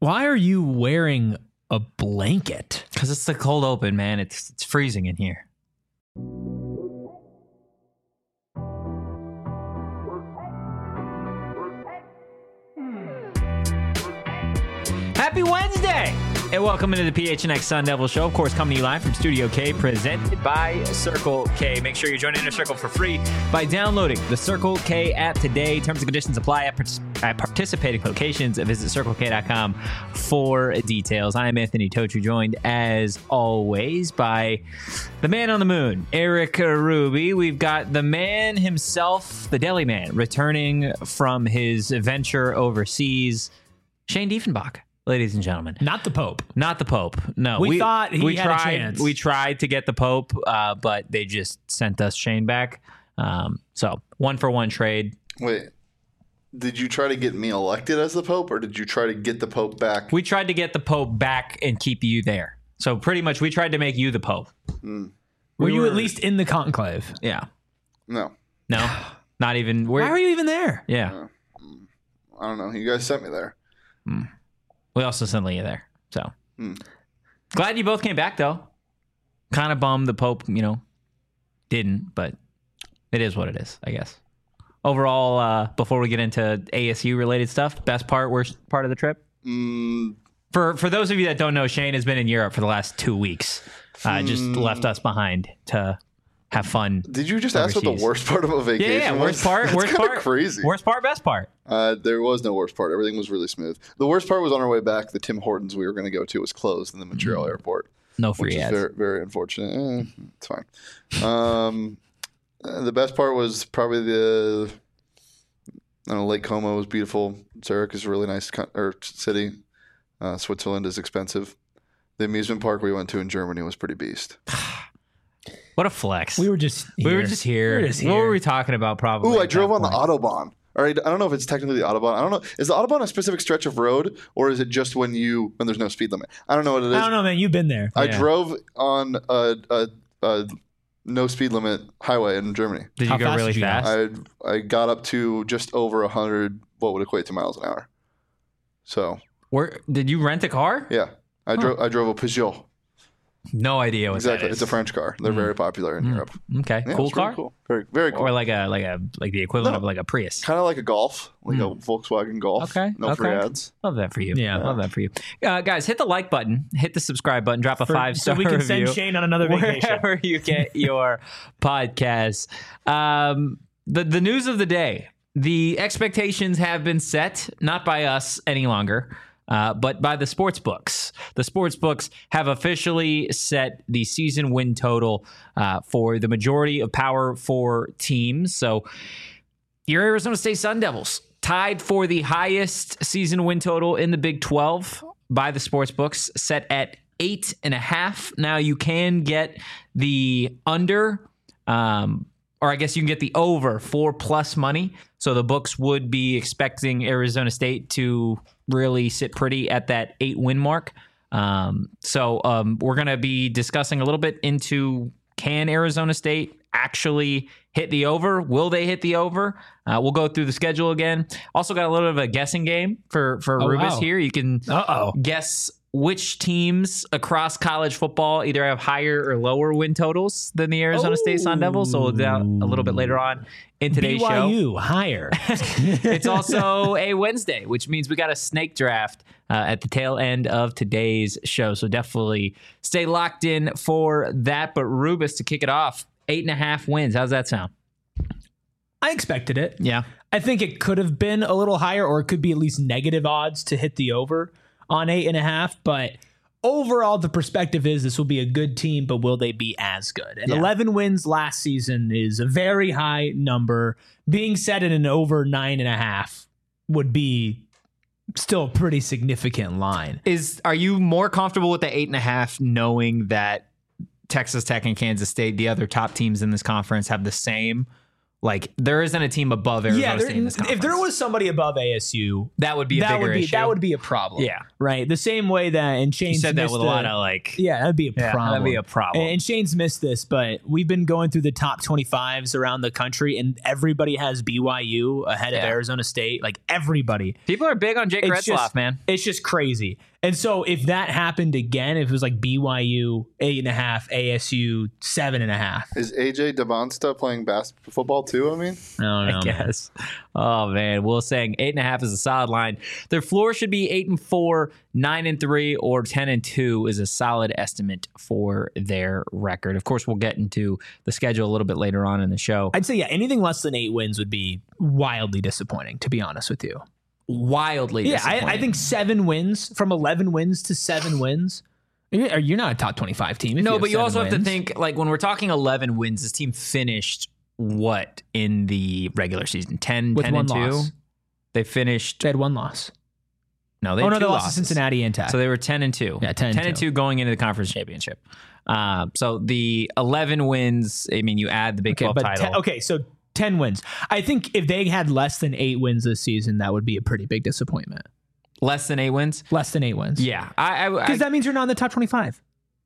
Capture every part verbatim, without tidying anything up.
Why are you wearing a blanket? Because it's the cold open, man. It's it's freezing in here. Happy Wednesday! And welcome into the P H N X Sun Devil Show. Of course, coming to you live from Studio K, presented by Circle K. Make sure you join Inner Circle for free by downloading the Circle K app today. Terms and conditions apply at, at participating locations. Visit circle k dot com for details. I am Anthony Totru, joined as always by the man on the moon, Eric Ruby. We've got the man himself, the deli man, returning from his venture overseas, Shane Diefenbach. Ladies and gentlemen, Not the Pope. not the Pope. No, We thought he we had a tried. chance. We tried to get the Pope, uh, but they just sent us Shane back. Um, so one for one trade. Wait, did you try to get me elected as the Pope, or did you try to get the Pope back? We tried to get the Pope back and keep you there. So pretty much, we tried to make you the Pope. Mm, Were We you were- at least in the conclave? Yeah. no, No. Not even. We're, Why were you even there? Yeah. I don't know. You guys sent me there. We also sent Leah there. So Hmm. glad you both came back, though. Kind of bummed the Pope, you know, didn't, but it is what it is, I guess. Overall, uh, before we get into A S U related stuff, best part, worst part of the trip? Mm, For for those of you that don't know, Shane has been in Europe for the last two weeks. Uh, just Hmm. left us behind to have fun. did you just ask what Overseas. the worst part of a Yeah, vacation yeah, was? worst part, That's worst kinda part, crazy. Worst part, best part. Uh, there was no worst part. Everything was really smooth. The worst part was on our way back. The Tim Hortons we were going to go to was closed in the Montreal airport, No which free is ads. very, very unfortunate. Eh, it's fine. Um, uh, the best part was probably the I don't know, Lake Como was beautiful. Zurich is a really nice co- or city. Uh, Switzerland is expensive. The amusement park we went to in Germany was pretty beast. What a flex. We were just here. We were just here. We were just What here. were we talking about? Probably. Ooh, I at drove that on the point? Autobahn. All right, I don't know if it's technically the Autobahn. I don't know. Is the Autobahn a specific stretch of road, or is it just when you when there's no speed limit? I don't know what it is. I don't know, man. You've been there. I Yeah. drove on a, a, a no speed limit highway in Germany. Did How you go fast really did you go? fast? I I got up to just over a hundred, what would equate to miles an hour. So Where did you rent a car? yeah, I drove I drove a Peugeot. No idea what Exactly, that is. it's a French car. They're very popular in Europe. Okay, Yeah, cool it's really car. cool. Very very cool. Or like a like a like the equivalent No. of like a Prius. Kind of like a Golf, like a Volkswagen Golf. Okay, no free okay. ads. Love that for you. Yeah. love that for you, uh, guys. Hit the like button, hit the subscribe button, drop a For- five star so we can review send Shane on another vacation. wherever you get your podcasts. Um, the the news of the day: the expectations have been set, not by us any longer. Uh, but by the sports books. The sports books have officially set the season win total uh, for the majority of Power Four teams. So your Arizona State Sun Devils tied for the highest season win total in the Big twelve by the sports books, set at eight and a half. Now you can get the under, um, or I guess you can get the over for plus money. So the books would be expecting Arizona State to really sit pretty at that eight win mark. Um, so um, we're going to be discussing a little bit into, can Arizona State actually hit the over? Will they hit the over? Uh, we'll go through the schedule again. Also got a little bit of a guessing game for, for Oh, Rubis wow. here. You can Uh-oh. guess which teams across college football either have higher or lower win totals than the Arizona State Sun Devils. So we'll do that a little bit later on in today's B Y show. U higher. It's also a Wednesday, which means we got a snake draft uh, at the tail end of today's show. So definitely stay locked in for that. But Rubis, to kick it off, eight and a half wins. How's that sound? I expected it. Yeah. I think it could have been a little higher, or it could be at least negative odds to hit the over on eight and a half. But overall, the perspective is this will be a good team, but will they be as good? And Yeah. eleven wins last season is a very high number. Being set at an over nine and a half would be still a pretty significant line. Is are you more comfortable with the eight and a half, knowing that Texas Tech and Kansas State, the other top teams in this conference, have the same Like there isn't a team above Arizona Yeah, there, State in this conference. if there was somebody above A S U, that would be a that bigger would be issue. that would be a problem. Yeah. right. The same way that and Shane's you said that missed with a the- lot of like. yeah, that'd be a Yeah, problem. that'd be a problem. And Shane's missed this, but we've been going through the top twenty-fives around the country, and everybody has B Y U ahead of Yeah. Arizona State. Like everybody. People are big on Jake It's Retzlaff, just- man. It's just crazy. And so if that happened again, if it was like B Y U eight and a half, A S U seven and a half, Is A J Devonsta playing basketball football too? I mean, I don't know. I man. guess. Oh man, Will saying eight and a half is a solid line. Their floor should be eight and four, nine and three, or ten and two is a solid estimate for their record. Of course, we'll get into the schedule a little bit later on in the show. I'd say yeah, anything less than eight wins would be wildly disappointing. To be honest with you. Wildly, Yeah, I, disappointing. I think seven wins from eleven wins to seven wins. You're you're not a top twenty-five team. If no, you but you seven also have to wins. think like when we're talking eleven wins, this team finished what in the regular season? ten, With ten one and two. loss. They finished. They had one loss. No, they Oh had no, two they lost to losses. Cincinnati and Tech. So they were ten and two. Yeah, ten and and two. two going into the conference championship. Uh, so the eleven wins. I mean, you add the Big okay, twelve but title. te- okay, so ten wins. I think if they had less than eight wins this season, that would be a pretty big disappointment. Less than eight wins. Less than eight wins. Yeah, I, I, I Because that means you're not in the top twenty-five.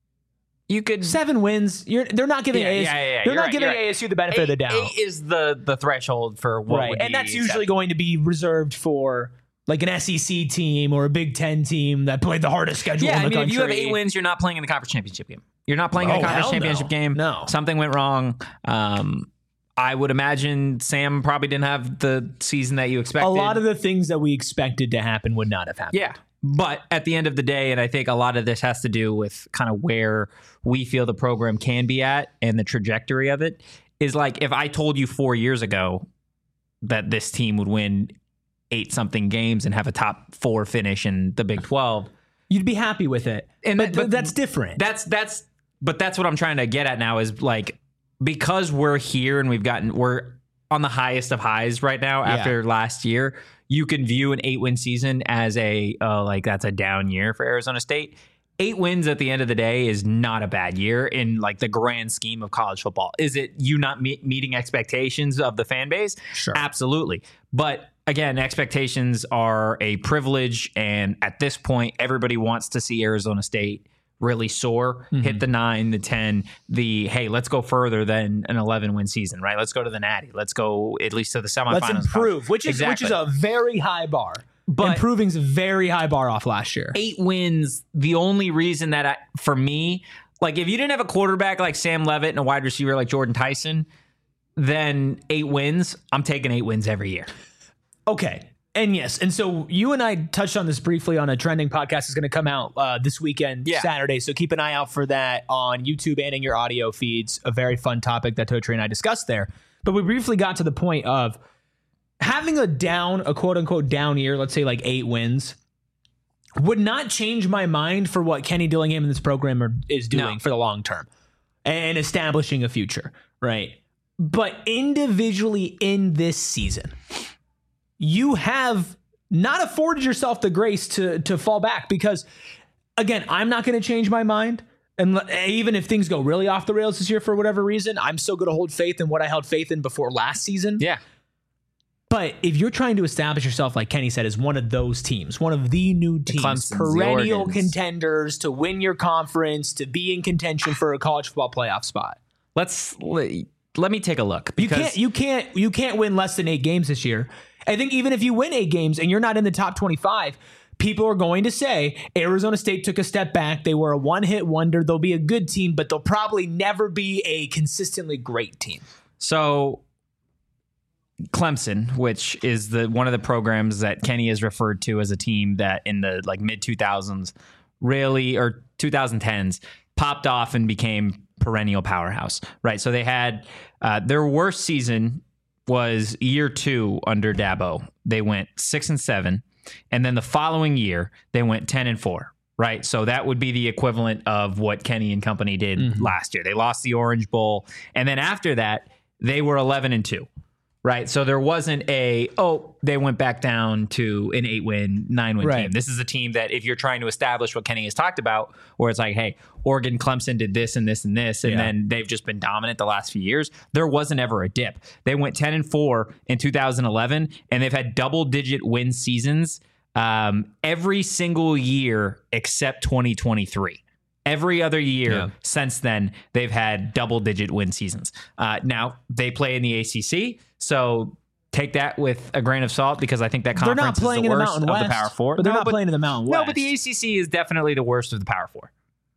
you could. Seven wins. You're. They're not giving. Yeah, A S U, yeah, yeah, yeah. They're You're not right, giving you're right. A S U the benefit Eight, of the doubt. eight is the the threshold for what Right, would and be that's usually acceptable. going to be reserved for like an S E C team or a Big Ten team that played the hardest schedule Yeah, in the I mean, country. if you have eight wins, you're not playing in the conference championship game. You're not playing in Oh, the conference hell championship no. game. No. Something went wrong. Um, I would imagine Sam probably didn't have the season that you expected. A lot of the things that we expected to happen would not have happened. Yeah. But at the end of the day, and I think a lot of this has to do with kind of where we feel the program can be at and the trajectory of it, is like if I told you four years ago that this team would win eight something games and have a top four finish in the Big twelve, You'd be happy with it. And but, that- but that's different. that's that's but that's what I'm trying to get at now is like because we're here and we've gotten we're on the highest of highs right now Yeah. after last year, you can view an eight win season as a uh, like that's a down year for Arizona State. Eight wins at the end of the day is not a bad year in like the grand scheme of college football. Is it you not me- meeting expectations of the fan base? Sure. Absolutely. But again, expectations are a privilege. And at this point, everybody wants to see Arizona State really soar, Mm-hmm. hit the nine, the ten, the, hey, let's go further than an eleven win season, right? Let's go to the Natty. Let's go at least to the semifinals. Let's improve, which is which is a very high bar. But- Improving's a very high bar off last year. Eight wins. The only reason that I, for me, like if you didn't have a quarterback like Sam Levitt and a wide receiver like Jordan Tyson, then eight wins. I'm taking eight wins every year. Okay. And yes, and so you and I touched on this briefly on a trending podcast is going to come out uh, this weekend, Yeah. Saturday. So keep an eye out for that on YouTube and in your audio feeds. A very fun topic that Totri and I discussed there. But we briefly got to the point of having a down, a quote unquote down year, let's say like eight wins, would not change my mind for what Kenny Dillingham and this program are, is doing No. for the long term and establishing a future, right? But individually in this season, you have not afforded yourself the grace to to fall back because, again, I'm not going to change my mind. And l- even if things go really off the rails this year for whatever reason, I'm still going to hold faith in what I held faith in before last season. Yeah. But if you're trying to establish yourself, like Kenny said, as one of those teams, one of the new teams, Clemsons, the perennial Oregons. contenders to win your conference, to be in contention for a college football playoff spot, Let's let, let me take a look. you Because can't you can't you can't win less than eight games this year. I think even if you win eight games and you're not in the top twenty-five, people are going to say Arizona State took a step back. They were a one-hit wonder. They'll be a good team, but they'll probably never be a consistently great team. So Clemson, which is the one of the programs that Kenny has referred to as a team that in the like mid two thousands really or twenty tens popped off and became perennial powerhouse, right? So they had uh, their worst season was year two under Dabo. They went six and seven, and then the following year they went ten and four. Right. So that would be the equivalent of what Kenny and company did Mm-hmm. last year. They lost the Orange Bowl. And then after that, they were eleven and two. right? So there wasn't a, oh, they went back down to an eight-win, nine-win Right. team. This is a team that if you're trying to establish what Kenny has talked about, where it's like, hey, Oregon, Clemson did this and this and this, and Yeah. then they've just been dominant the last few years. There wasn't ever a dip. They went ten and four in two thousand eleven, and they've had double-digit win seasons um, every single year except twenty twenty-three. Every other year Yeah. since then, they've had double-digit win seasons. Uh, now, they play in the A C C, so take that with a grain of salt because I think that They're conference not playing is the in the worst Mountain of West, the Power Four. but they're No, not playing in the Mountain No, West. but the A C C is definitely the worst of the Power Four.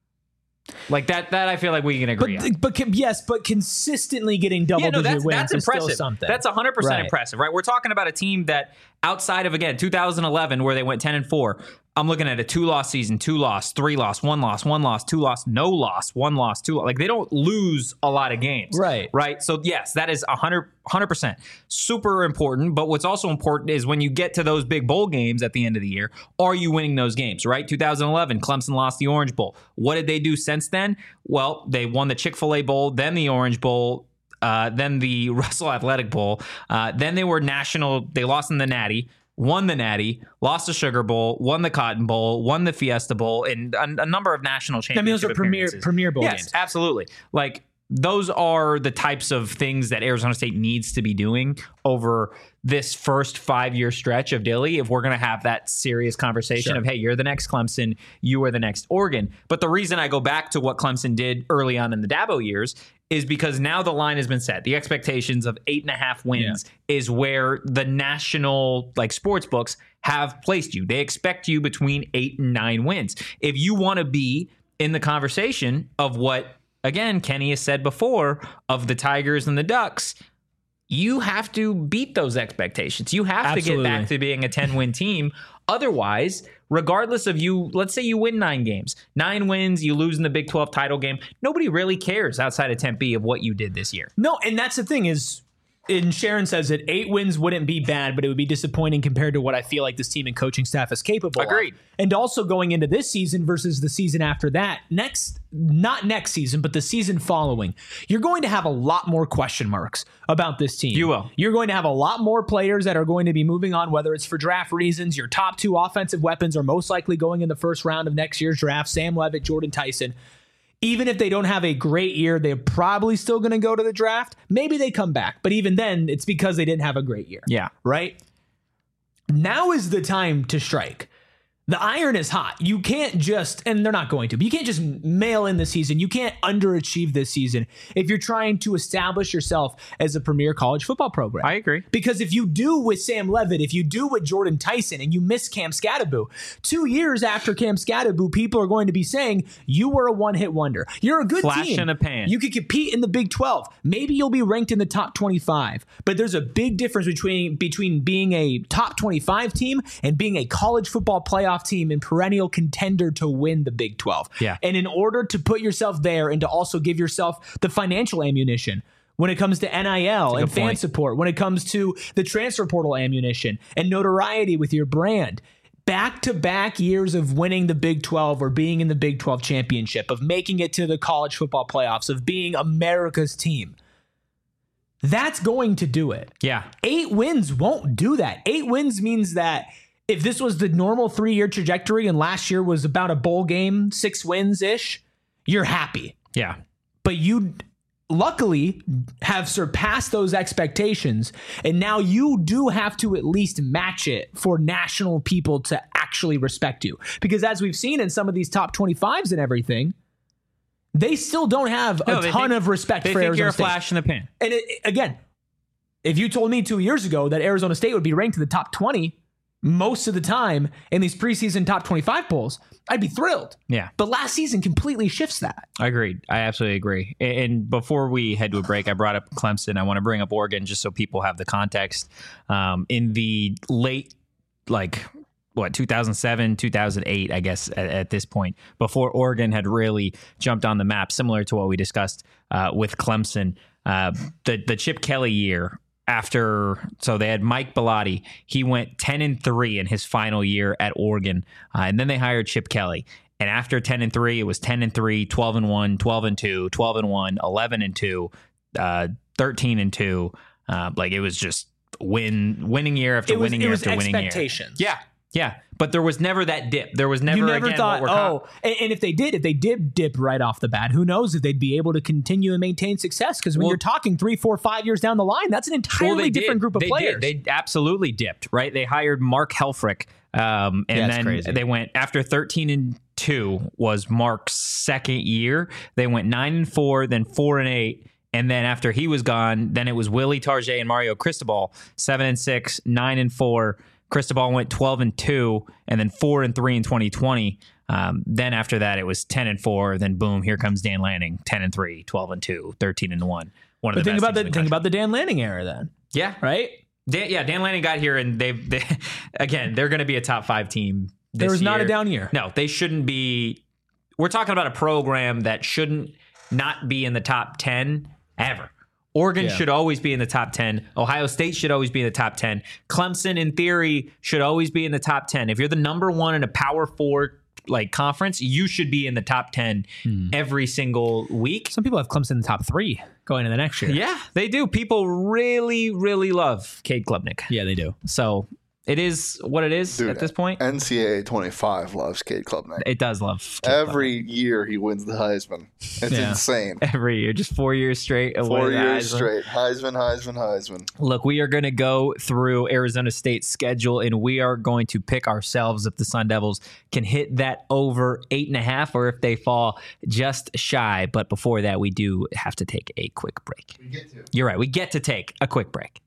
Like that, that I feel like we can agree on. But, but con- yes, but consistently getting double Yeah, no, digit that's, wins that's is still impressive. something. That's one hundred percent Right. impressive, right? We're talking about a team that outside of, again, two thousand eleven, where they went ten and four, I'm looking at a two-loss season, two-loss, three-loss, one-loss, one-loss, two-loss, no-loss, one-loss, two-loss. Like, they don't lose a lot of games. Right. Right? So, yes, that is one hundred, one hundred percent super important. But what's also important is when you get to those big bowl games at the end of the year, are you winning those games, right? two thousand eleven, Clemson lost the Orange Bowl. What did they do since then? Well, they won the Chick-fil-A Bowl, then the Orange Bowl, uh, then the Russell Athletic Bowl. Uh, then they were national. They lost in the Natty. Won the Natty, lost the Sugar Bowl, won the Cotton Bowl, won the Fiesta Bowl, and a, a number of national championship I mean, those are premier appearances. premier bowl Yes, games. absolutely. Like, those are the types of things that Arizona State needs to be doing over this first five-year stretch of Dilly if we're going to have that serious conversation Sure. of, hey, you're the next Clemson, you are the next Oregon. But the reason I go back to what Clemson did early on in the Dabo years is because now the line has been set. The expectations of eight and a half wins is where the national like sports books have placed you. They expect you between eight and nine wins. If you want to be in the conversation of what, again, Kenny has said before, of the Tigers and the Ducks, you have to beat those expectations. You have Absolutely. to get back to being a ten-win team. Otherwise, regardless of you, let's say you win nine games, nine wins, you lose in the Big twelve title game. Nobody really cares outside of Tempe of what you did this year. No, and that's the thing is, and Sharon says that eight wins wouldn't be bad, but it would be disappointing compared to what I feel like this team and coaching staff is capable Agreed. of. And also going into this season versus the season after that, next, not next season, but the season following, you're going to have a lot more question marks about this team. You will. You're going to have a lot more players that are going to be moving on, whether it's for draft reasons. Your top two offensive weapons are most likely going in the first round of next year's draft, Sam Levitt, Jordan Tyson. Even if they don't have a great year, they're probably still going to go to the draft. Maybe they come back, but even then, it's because they didn't have a great year. Yeah. Right? Now is the time to strike. The iron is hot. You can't just, and they're not going to, but you can't just mail in the season. You can't underachieve this season if you're trying to establish yourself as a premier college football program. I agree. Because if you do with Sam Levitt, if you do with Jordan Tyson, and you miss Cam Scatterbu, two years after Cam Scatterbu, people are going to be saying you were a one-hit wonder. You're a good Flash team. in a pan. You could compete in the Big twelve. Maybe you'll be ranked in the top twenty-five. But there's a big difference between between being a top twenty-five team and being a college football playoff team and perennial contender to win the Big twelve. Yeah. And in order to put yourself there and to also give yourself the financial ammunition when it comes to N I L and good fan point. support, when it comes to the transfer portal ammunition and notoriety with your brand, back-to-back years of winning the Big twelve or being in the Big twelve championship, of making it to the college football playoffs, of being America's team, that's going to do it. Yeah. Eight wins won't do that. Eight wins means that if this was the normal three-year trajectory and last year was about a bowl game, six wins-ish, you're happy. Yeah. But you luckily have surpassed those expectations, and now you do have to at least match it for national people to actually respect you. Because as we've seen in some of these top twenty-fives and everything, they still don't have No, a they ton think- of respect They for think Arizona you're a State. flash in the pan. And it, again, if you told me two years ago that Arizona State would be ranked in the top twenty most of the time in these preseason top twenty-five polls, I'd be thrilled. Yeah. But last season completely shifts that. I agreed. I absolutely agree. And and before we head to a break, I brought up Clemson. I want to bring up Oregon just so people have the context. Um, in the late, like, what, two thousand seven, two thousand eight, I guess, at, at this point, before Oregon had really jumped on the map, similar to what we discussed uh, with Clemson, uh, the, the Chip Kelly year. After, so they had Mike Bellotti. He went ten and three in his final year at Oregon, uh, and then they hired Chip Kelly. And after ten and three, it was ten and three, twelve and one, twelve and two, twelve and one, eleven and two, uh, thirteen and two, Uh, like it was just win, winning year after It was, winning it year was after winning year. expectations. Yeah, yeah. But there was never that dip. There was never, You never again, thought, what we're oh, and, and if they did, if they did dip right off the bat, who knows if they'd be able to continue and maintain success? Because when Well- you're talking three, four, five years down the line, that's an entirely Well, they different did. group of they players. Did. They absolutely dipped, right? They hired Mark Helfrich, um, and Yeah, it's then crazy. they went after thirteen and two was Mark's second year. They went nine and four, then four and eight. And then after he was gone, then it was Willie Target and Mario Cristobal, seven and six, nine and four. Cristobal went twelve and two, and then four and three in twenty twenty. Um, then after that, it was ten and four. Then boom, here comes Dan Lanning, ten and three, twelve and two, thirteen and one. One of but the think best about the teams in think country. about the Dan Lanning era then, yeah, right? Dan, yeah, Dan Lanning got here, and they, they again, they're going to be a top five team. This There was not year. a down year. No, they shouldn't be. We're talking about a program that shouldn't not be in the top ten ever. Oregon Yeah. should always be in the top ten. Ohio State should always be in the top ten. Clemson, in theory, should always be in the top ten. If you're the number one in a Power Four like conference, you should be in the top ten Hmm. every single week. Some people have Clemson in the top three going into the next year. Yeah, they do. People really, really love Cade Klubnik. Yeah, they do. So it is what it is Dude, at this point. N C A A twenty-five loves Cade Klubnik. It does love Cade Every year he wins the Heisman. It's Yeah. insane. Klubnik. every year, just four years straight. away Four the years Heisman. straight. Heisman, Heisman, Heisman. Look, we are going to go through Arizona State's schedule, and we are going to pick ourselves if the Sun Devils can hit that over eight and a half, or if they fall just shy. But before that, we do have to take a quick break. We get to. You're right. We get to take a quick break.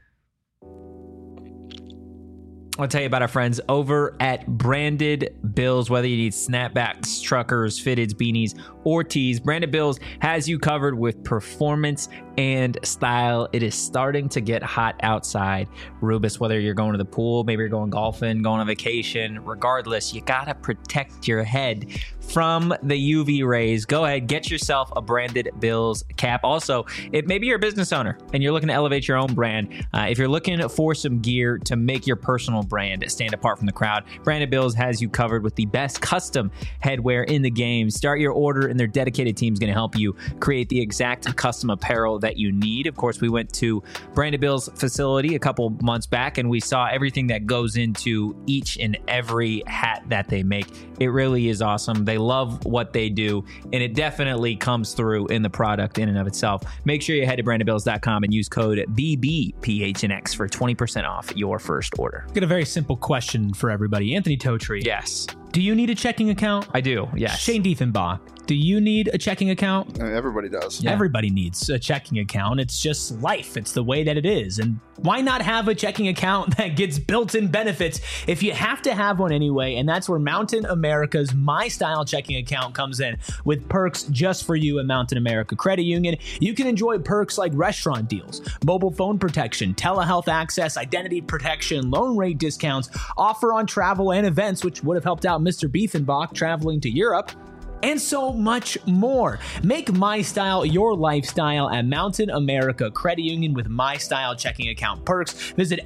I'll tell you about our friends over at Branded Bills. Whether you need snapbacks, truckers, fitteds, beanies, or tees, Branded Bills has you covered with performance and style. It is starting to get hot outside. Rubus, whether you're going to the pool, maybe you're going golfing, going on vacation, regardless, you got to protect your head from the U V rays. Go ahead, get yourself a Branded Bills cap. Also, if maybe you're a business owner and you're looking to elevate your own brand, uh, if you're looking for some gear to make your personal brand stand apart from the crowd, Branded Bills has you covered with the best custom headwear in the game. Start your order and their dedicated team is going to help you create the exact custom apparel that you need. Of course, we went to Branded Bills facility a couple months back and we saw everything that goes into each and every hat that they make. It really is awesome. They love what they do, and it definitely comes through in the product in and of itself. Make sure you head to branded bills dot com and use code B B P H N X for twenty percent off your first order. I've got a very simple question for everybody. Anthony Totri. Yes, Do you need a checking account? I do. Yes. Shane Diefenbach. Do you need a checking account? I mean, everybody does. Yeah. Everybody needs a checking account. It's just life. It's the way that it is. And why not have a checking account that gets built-in benefits if you have to have one anyway? And that's where Mountain America's My Style checking account comes in with perks just for you at Mountain America Credit Union. You can enjoy perks like restaurant deals, mobile phone protection, telehealth access, identity protection, loan rate discounts, offer on travel and events, which would have helped out Mister Diefenbach traveling to Europe, and so much more. Make My Style your lifestyle at Mountain America Credit Union with My Style checking account perks. Visit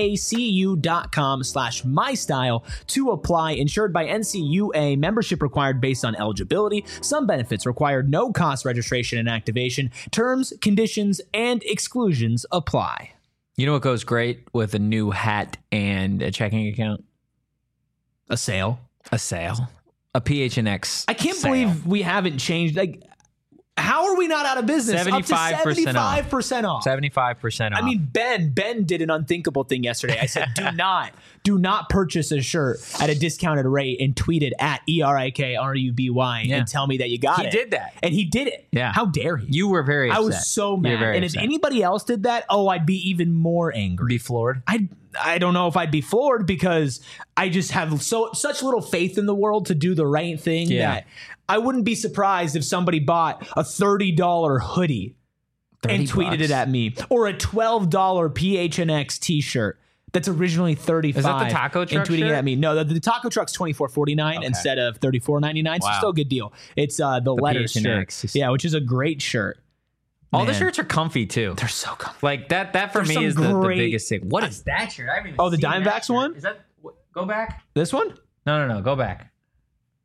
macu.com slash MyStyle to apply. Insured by N C U A. Membership required based on eligibility. Some benefits require no cost registration and activation. Terms, conditions, and exclusions apply. You know what goes great with a new hat and a checking account? A sale. A sale. A P H N X. I can't sale. believe we haven't changed. Like, how are we not out of business? seventy-five percent Up to seventy-five percent off. seventy-five percent off. I mean, Ben, Ben did an unthinkable thing yesterday. I said, do not, do not purchase a shirt at a discounted rate and tweet it at E R I K R U B Y Yeah. and tell me that you got He it. did that. And he did it. Yeah. How dare he? you were very I upset. was so You were mad. very And upset. if anybody else did that, oh, I'd be even more angry. Be floored. I I don't know if I'd be floored because I just have so such little faith in the world to do the right thing Yeah. that I wouldn't be surprised if somebody bought a thirty dollar hoodie and thirty tweeted bucks. it at me, or a twelve dollar P H N X t-shirt that's originally thirty-five dollars. Is that the taco truck and tweeting shirt? it at me. No, the, the taco truck's twenty-four forty-nine Okay. instead of thirty-four ninety-nine. So Wow. still a good deal. It's uh, the, letters P H N X shirt. is- Yeah, which is a great shirt. All the Man. shirts are comfy too. They're so comfy. Like that. That for There's me some is the, the great- biggest thing. What is that shirt? I haven't even Oh, the seen that Diamondbacks shirt. one? Is that? Go back. This one? No, no, no. Go back.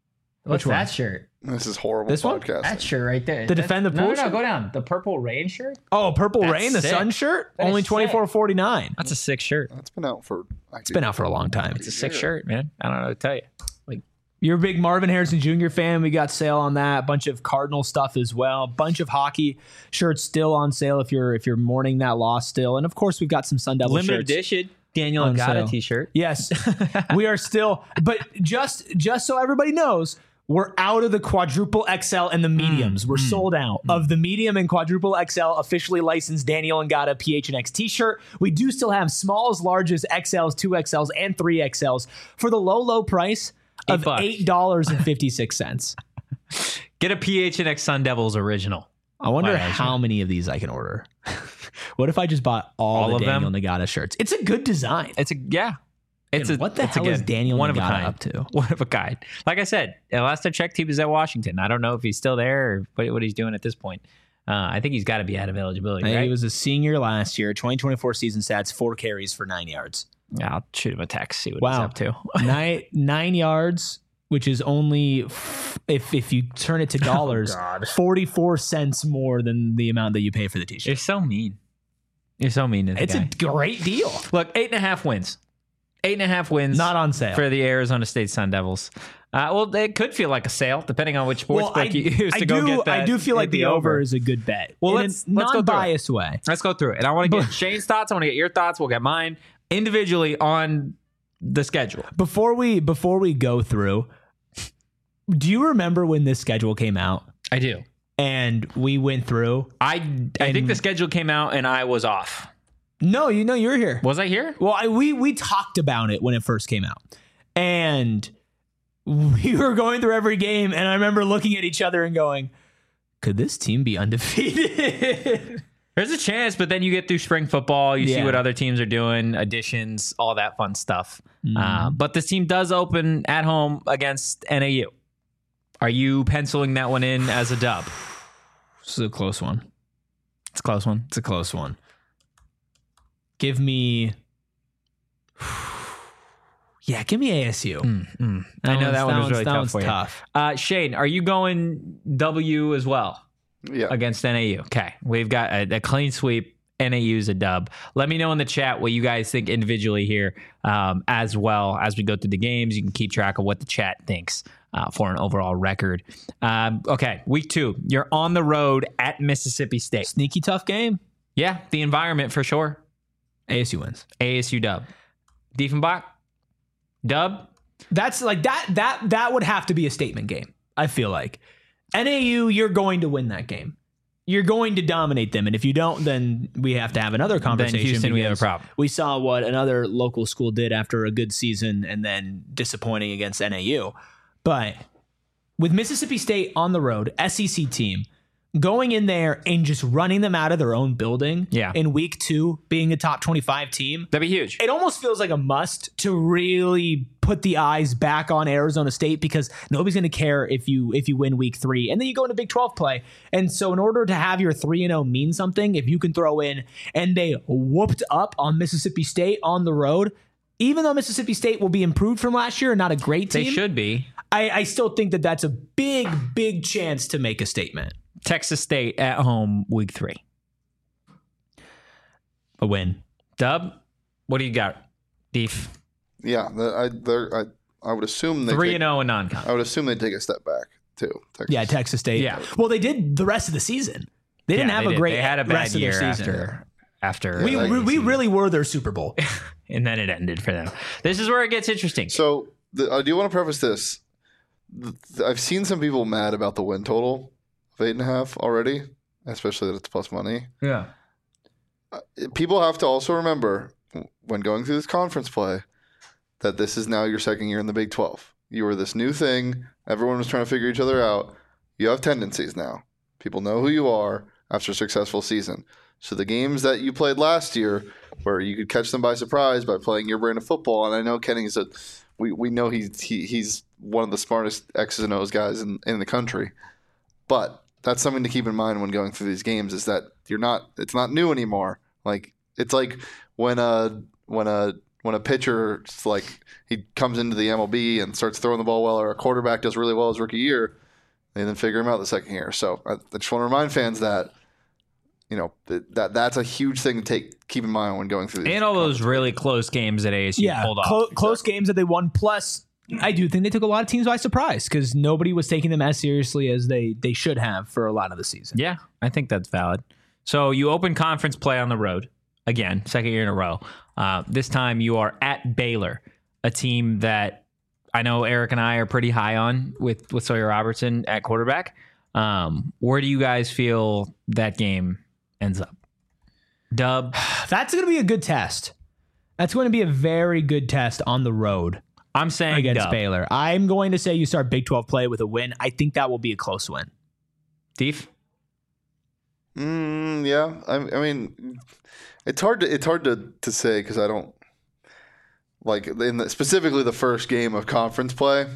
What's Which one? that shirt? This is horrible This one? podcasting. That shirt right there. The That- Defend the no, Pool No, no, shirt? go down. The Purple Rain shirt? Oh, Purple That's Rain, the sick. sun shirt, That only is sick. twenty four forty nine. That's a sick shirt. It's been out for. It's been out for a long time. It's a sick shirt, man. I don't know what to tell you. Like, You're a big Marvin Harrison Junior fan. We got sale on that. A bunch of Cardinal stuff as well. Bunch of hockey shirts still on sale if you're if you're mourning that loss still. And of course, we've got some Sun Devil limited shirts. edition Daniel on Ngata sale. t-shirt. Yes, we are still. But just just so everybody knows, we're out of the quadruple X L and the mediums. We're sold out of the medium and quadruple X L officially licensed Daniel Ngata P H N X t-shirt. We do still have smalls, larges, X Ls, two X Ls, and three X Ls for the low, low price of bucks. eight dollars and fifty-six cents. Get a P H N X Sun Devils original. I wonder Why not? how many of these I can order. What if I just bought all, All the of Daniel them? Nagata shirts? It's a good design. It's a yeah. It's And a what the it's hell is again, Daniel one of a Nagata kind. up to? One of a kind. Like I said, the last I checked, he was at Washington. I don't know if he's still there or what, what he's doing at this point. Uh, I think he's got to be out of eligibility, He right? was a senior last year. twenty twenty-four season stats: four carries for nine yards. Yeah, I'll shoot him a text, see what Wow. he's up to. nine nine yards, which is only f- if if you turn it to dollars, forty-four cents more than the amount that you pay for the t-shirt. You're so mean. You're so mean to the It's guy. a great deal. Look, eight and a half wins. Eight and a half wins. Not on sale. for the Arizona State Sun Devils. Uh, well, it could feel like a sale, depending on which sports Well, book I, you use to I go do, get that. I do feel get like the over is a good bet. Well, in let's- a let's go through it. non-biased way. Let's go through it. And I want to get Shane's thoughts. I want to get your thoughts. We'll get mine individually on the schedule. Before we before we go through, do you remember when this schedule came out I do. and we went through? I, I think the schedule came out and I was off. No, you know you were here. Was I here? Well, I, we we talked about it when it first came out, and we were going through every game, and I remember looking at each other and going, "Could this team be undefeated?" There's a chance, but then you get through spring football. You see Yeah. what other teams are doing, additions, all that fun stuff. Uh, but this team does open at home against N A U. Are you penciling that one in as a dub? This is a close one. It's a close one. It's a close one. Give me, yeah, give me A S U. Mm, mm. I know one's- that one was one's- really that tough one's for you. tough. Uh, Shane, are you going W as well Yeah. against N A U? Okay, we've got a, a clean sweep. N A U's a dub. Let me know in the chat what you guys think individually here, um, as well as we go through the games. You can keep track of what the chat thinks uh, for an overall record. Um, okay, week two, you're on the road at Mississippi State. Sneaky tough game. Yeah, the environment for sure. A S U wins. A S U dub. Diefenbach, dub. That's like that. That that would have to be a statement game. I feel like N A U, you're going to win that game. You're going to dominate them, and if you don't, then we have to have another conversation. Then Houston, we have a because problem. We saw what another local school did after a good season, and then disappointing against N A U. But with Mississippi State on the road, S E C team, going in there and just running them out of their own building, Yeah. in week two, being a top twenty-five team, That'd be huge. it almost feels like a must to really put the eyes back on Arizona State, because nobody's going to care if you if you win week three and then you go into Big twelve play. And so in order to have your three and oh mean something, if you can throw in and they whooped up on Mississippi State on the road, even though Mississippi State will be improved from last year and not a great They team, should be. I, I still think that that's a big, big chance to make a statement. Texas State at home, week three. A win. Dub, what do you got? Deef. Yeah. The, I, they're- I I would assume they Three take, and zero in non-con. I would assume they take a step back too. Texas. Yeah, Texas State. Yeah. Well, they did the rest of the season. They didn't Yeah, have they a did. great They had a bad rest year of their season. after after We, Yeah, we, we really were their Super Bowl. and then it ended for them. This is where it gets interesting. So the, I do want to preface this. Th- I've seen some people mad about the win total of eight and a half already, especially that it's plus money. Yeah. People have to also remember when going through this conference play that this is now your second year in the Big twelve. You were this new thing. Everyone was trying to figure each other out. You have tendencies now. People know who you are after a successful season. So the games that you played last year, where you could catch them by surprise by playing your brand of football, and I know Kenny's a, we we know he's he, he's one of the smartest X's and O's guys in, in the country, but that's something to keep in mind when going through these games is that you're not it's not new anymore. Like it's like when a when a when a pitcher like he comes into the M L B and starts throwing the ball well, or a quarterback does really well his rookie year, they then figure him out the second year. So I, I just want to remind fans that you know that, that that's a huge thing to take keep in mind when going through these and all those really close games that A S U Yeah, pulled off. clo- close games that they won. Plus, I do think they took a lot of teams by surprise because nobody was taking them as seriously as they they should have for a lot of the season. Yeah, I think that's valid. So you open conference play on the road again, second year in a row. Uh, this time you are at Baylor, a team that I know Eric and I are pretty high on with with Sawyer Robertson at quarterback. Um, where do you guys feel that game ends up? Dub. That's going to be a good test. That's going to be a very good test on the road I'm saying against dub. Baylor. I'm going to say you start Big twelve play with a win. I think that will be a close win. Steve? Mm, yeah, I, I mean, it's hard to it's hard to, to say because I don't like in the, specifically the first game of conference play,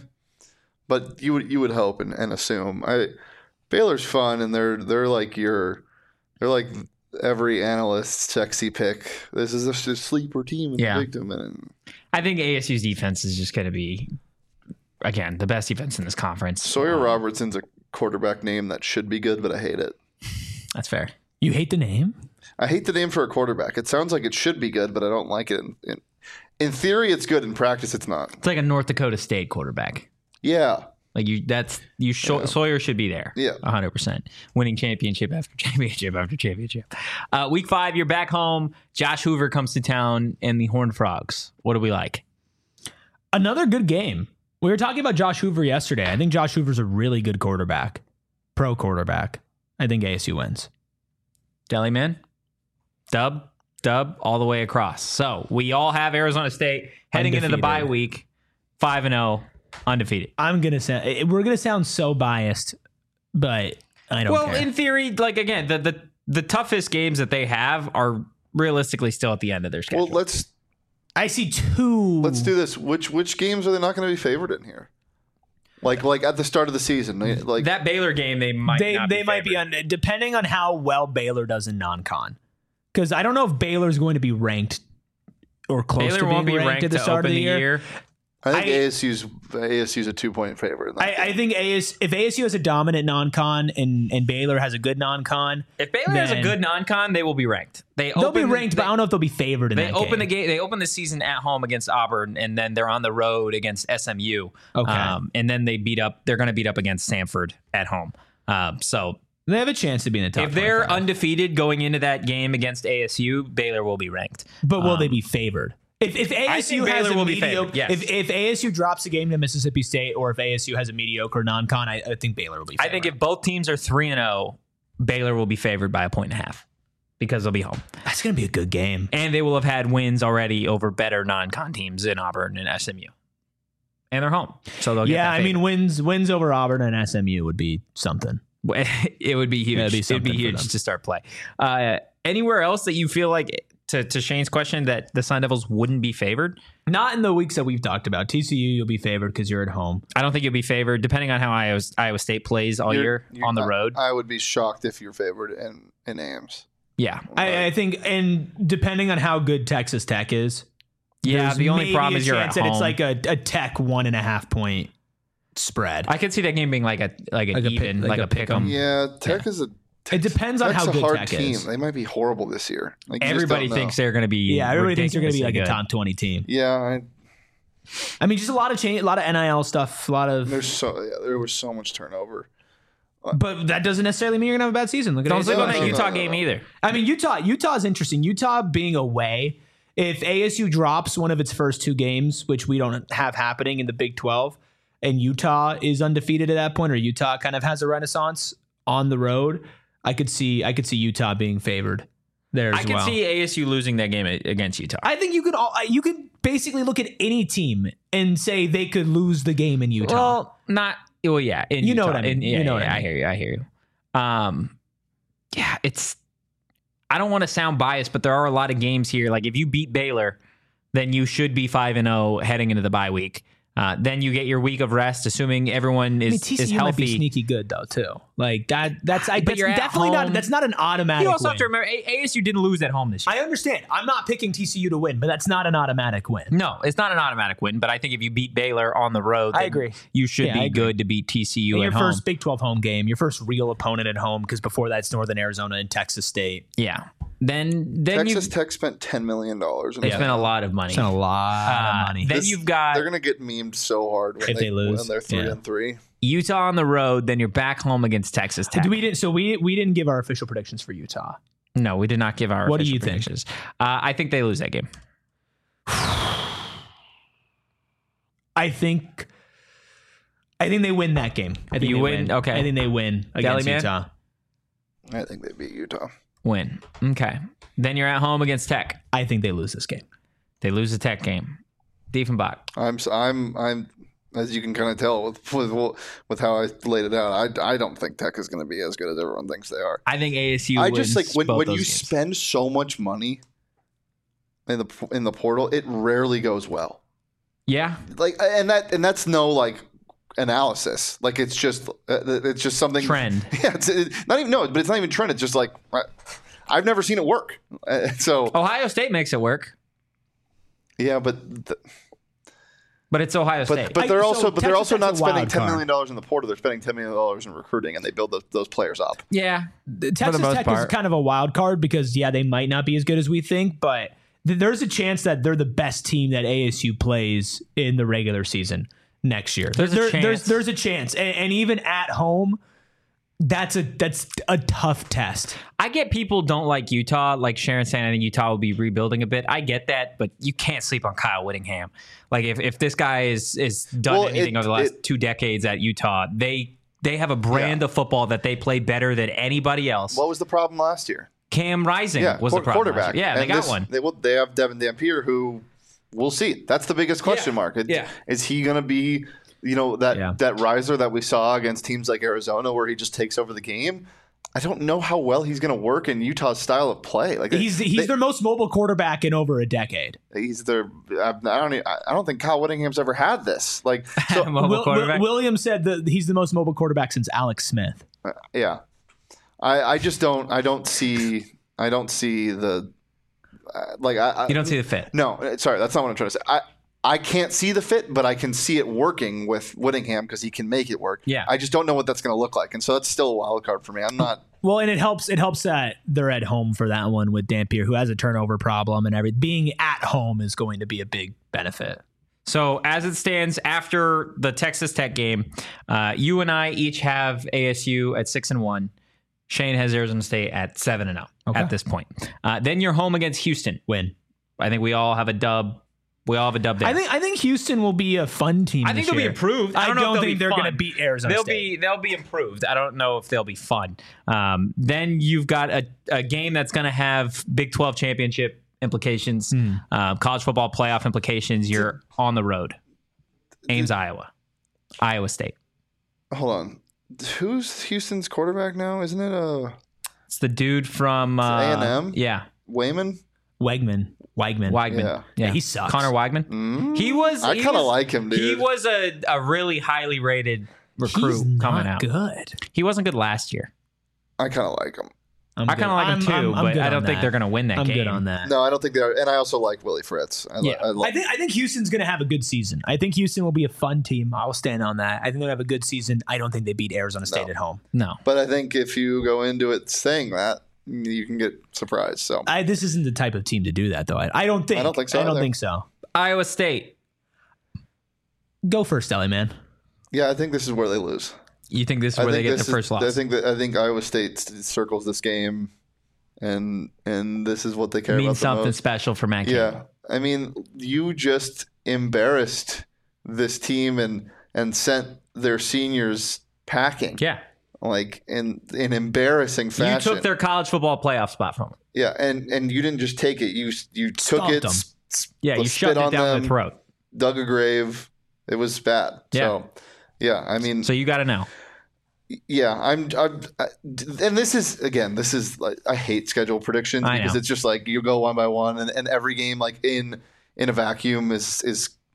but you would you would hope and, and assume. I Baylor's fun and they're they're like your they're like every analyst's sexy pick. This is a, a sleeper team in Yeah. the Big Ten. And I think A S U's defense is just going to be, again, the best defense in this conference. Sawyer Um, Robertson's a quarterback name that should be good, but I hate it. That's fair. You hate the name? I hate the name for a quarterback. It sounds like it should be good, but I don't like it. In, in, in theory, it's good. In practice, it's not. It's like a North Dakota State quarterback. Yeah. Like you, that's you. Sh- Yeah. Sawyer should be there. Yeah. a hundred percent, winning championship after championship after championship. Uh, week five, you're back home. Josh Hoover comes to town, and the Horned Frogs. What do we like? Another good game. We were talking about Josh Hoover yesterday. I think Josh Hoover's a really good quarterback, pro quarterback. I think A S U wins. Deli man, dub, dub, all the way across. So we all have Arizona State heading into the Undefeated. bye week, five and zero, undefeated. I'm gonna say we're gonna sound so biased, but I don't Well, care. in theory, like again, the the the toughest games that they have are realistically still at the end of their schedule. Well, let's I see two. let's do this. Which which games are they not going to be favored in here? Like like at the start of the season, like that Baylor game, they might They not they be might be favored. on depending on how well Baylor does in non-con, because I don't know if Baylor's going to be ranked or close Baylor to being won't be ranked, ranked at the to start open of the, the year. year. I think I- ASU's ASU's a two point favorite. in that I, I game. think A S if A S U has a dominant non-con and and Baylor has a good non-con, If Baylor has a then- good non-con, they will be ranked. They they'll be open the- ranked, they, but I don't know if they'll be favored in they that open the game. game. They open the season at home against Auburn, and then they're on the road against S M U. Okay. Um, and then they beat up. They're going to beat up against Samford at home. Um, so They have a chance to be in the top. if they're twenty-five. undefeated going into that game against A S U, Baylor will be ranked. but will they um, be favored? If if A S U think has Baylor a will be mediocre, favored, yes. if if A S U drops a game to Mississippi State, or if A S U has a mediocre non-con, I, I think Baylor will be I favored. think if both teams are three and zero, Baylor will be favored by a point and a half because they'll be home, that's going to be a good game. and they will have had wins already over better non-con teams in Auburn and S M U, and they're home, so they'll get Yeah, that I favor. mean wins wins over Auburn and S M U would be something. it would be huge. It'd be It'd something be for huge them. to start play. Uh, anywhere else that you feel like, to, to Shane's question, that the Sun Devils wouldn't be favored? Not in the weeks that we've talked about. T C U, you'll be favored because you're at home. I don't think you'll be favored, depending on how Iowa, Iowa State plays all You're- year you're- on the I- road. I would be shocked if you're favored in in A M S. yeah, I, I think, and depending on how good Texas Tech is, yeah. there's The only maybe problem a is you're at chance that home. it's like a, a Tech one and a half point spread. I could see that game being like a like an Like a pick- even, like like, a a pick 'em. Yeah, Tech is a it depends on Tech's how a good hard Tech team. is. They might be horrible this year. Like, you just Everybody don't know. thinks they're going to be. Yeah, everybody thinks they're going to be like ridiculously a good. top twenty team. Yeah, I, I mean, just a lot of change, a lot of N I L stuff, a lot of. there's so yeah, there was so much turnover. But that doesn't necessarily mean you're gonna have a bad season. Look at Don't A S U. sleep on No, that no, Utah no, game no. either. I mean, Utah. Utah's interesting. Utah being away. If A S U drops one of its first two games, which we don't have happening in the Big twelve, and Utah is undefeated at that point, or Utah kind of has a renaissance on the road, I could see. I could see Utah being favored there as I could well. see A S U losing that game against Utah. I think you could. All, you could basically look at any team and say they could lose the game in Utah. Well, not well, yeah. In You know Utah. what I mean. In- yeah, You know yeah, what I I mean. hear you. I hear you. Um, yeah, it's. I don't want to sound biased, but there are a lot of games here. Like if you beat Baylor, then you should be five and zero heading into the bye week. Uh, then you get your week of rest, assuming everyone is, I mean, T C U is might be healthy. sneaky good though too. Like that. That's I. But That's you're at definitely home. not. That's not an automatic. You also win. have to remember, A- ASU didn't lose at home this year. I understand. I'm not picking T C U to win, but that's not an automatic win. No, it's not an automatic win, but I think if you beat Baylor on the road, I then agree. you should Yeah, I be agree. good to beat T C U And at your home. first Big twelve home game, your first real opponent at home, because before that it's Northern Arizona and Texas State. Yeah. Then then Texas you Tech spent ten million dollars. they spent a lot of money. It's a lot Uh, of money. Then This- you've got They're gonna get memed so hard when If they, they lose, when they're three yeah. and three. Utah on the road. Then you're back home against Texas Tech. we didn't. So we we didn't give our official predictions for Utah. No, we did not give our. What do official you think? predictions. Uh, I think they lose that game. I think. I think they win that game. I think You they win? Okay. I think they win against man? Utah. I think they beat Utah. Win. Okay. Then you're at home against Tech. I think they lose this game. They lose the Tech game. Diefenbach. I'm s- I'm I'm as you can kind of tell with with with how I laid it out. I, I don't think Tech is going to be as good as everyone thinks they are. I think A S U. I wins just like when both when those you games. spend so much money in the in the portal, it rarely goes well. Yeah. Like and that and that's no like analysis. Like it's just uh, it's just something Trend. Yeah, it's it, not even no, but it's not even trend. It's just like I, I've never seen it work. Uh, so Ohio State makes it work, yeah, but. The, but it's Ohio State. But, but I- they're so also but they're Texas also Tech's not a spending wild ten card. million dollars in the portal. They're spending ten million dollars in recruiting, and they build those, those players up. yeah. The Texas most Tech is part. kind of a wild card because yeah, they might not be as good as we think, but th- there's a chance that they're the best team that A S U plays in the regular season next year. There's a There- chance. There's there's a chance, and, and even at home, that's a that's a tough test. I get people don't like Utah, like Sharon saying I think Utah will be rebuilding a bit. I get that, but you can't sleep on Kyle Whittingham. Like if, if this guy is is done Well, anything it- over the last it- two decades at Utah, they they have a brand Yeah. of football that they play better than anybody else. What was the problem last year? Cam Rising Yeah, was quar- the problem. last quarterback. year. Yeah, they And got this- one. They, well, they have Devin Dampier, who we'll see. That's the biggest question Yeah. mark. It- Yeah. Is he going to be, you know, that Yeah. that riser that we saw against teams like Arizona, where he just takes over the game? I don't know how well he's going to work in Utah's style of play. Like He's he's they- their most mobile quarterback in over a decade. he's their. I don't. e- I don't think Kyle Whittingham's ever had this. Like, so, Mobile Will, Will, quarterback. Williams said that he's the most mobile quarterback since Alex Smith. yeah. I I just don't. I don't see. I don't see the. Uh, like I, I. You don't see the fit. No, uh, sorry, that's not what I'm trying to say. I I can't see the fit, but I can see it working with Whittingham because he can make it work. Yeah. I just don't know what that's going to look like, and so that's still a wild card for me. I'm not. Well, and it helps. It helps that they're at home for that one with Dampier, who has a turnover problem and everything. Being at home is going to be a big benefit. So as it stands after the Texas Tech game, uh, you and I each have A S U at six and one. Shane has Arizona State at seven and zero Okay. at this point. Uh, then you're home against Houston. Win. I think we all have a dub. We all have a dub there. I think. I think Houston will be a fun team. I think this they'll be year. improved. I I don't, don't know if they'll think be they're fun. going to beat Arizona they'll State. be they'll be improved. I don't know if they'll be fun. Um, then you've got a, a game that's going to have Big twelve championship implications, Hmm. uh, college football playoff implications. You're on the road. Ames, Iowa, Iowa State. Hold on. Who's Houston's quarterback now? Isn't it uh, It's the dude from uh, A and M? Yeah, Wayman? Wegman. Wegman. Weigman. Yeah. Yeah, he sucks. Connor Weigman. Mm, He was. I he kind of was- like him, dude. He was a, a really highly rated recruit He's coming not out. good. He wasn't good last year. I kind of like him. I'm I kind of like him I'm- too, I'm- I'm but good I on don't think that. they're going to win that I'm game. good on that. No, I don't think they are. And I also like Willie Fritz. I, li- Yeah. I, like, I think I think Houston's going to have a good season. I think Houston will be a fun team. I'll stand on that. I think they'll have a good season. I don't think they beat Arizona State No. at home. No. but I think if you go into it saying that, you can get surprised. So I, this isn't the type of team to do that, though. I, I don't think. I don't think so I don't either. think so. Iowa State. Go first, Ellie, man. yeah, I think this is where they lose. You think this is I where they think get their this is- first loss? I think that I think Iowa State s- circles this game, and and this is what they care means about the something most. special for Matt Yeah, Campbell. I mean, you just embarrassed this team and and sent their seniors packing. Yeah. Like in in embarrassing fashion. You took their college football playoff spot from them. yeah, and and you didn't just take it. You you took Stomped it. them. s- s- Yeah, you spit shoved it on down them, their throat. dug a grave. It was bad. Yeah. So yeah, I mean, So you got to know. yeah, I'm, I'm, I, and this is again, this is like I hate schedule predictions I because know. it's just like you go one by one, and, and every game like in in a vacuum is is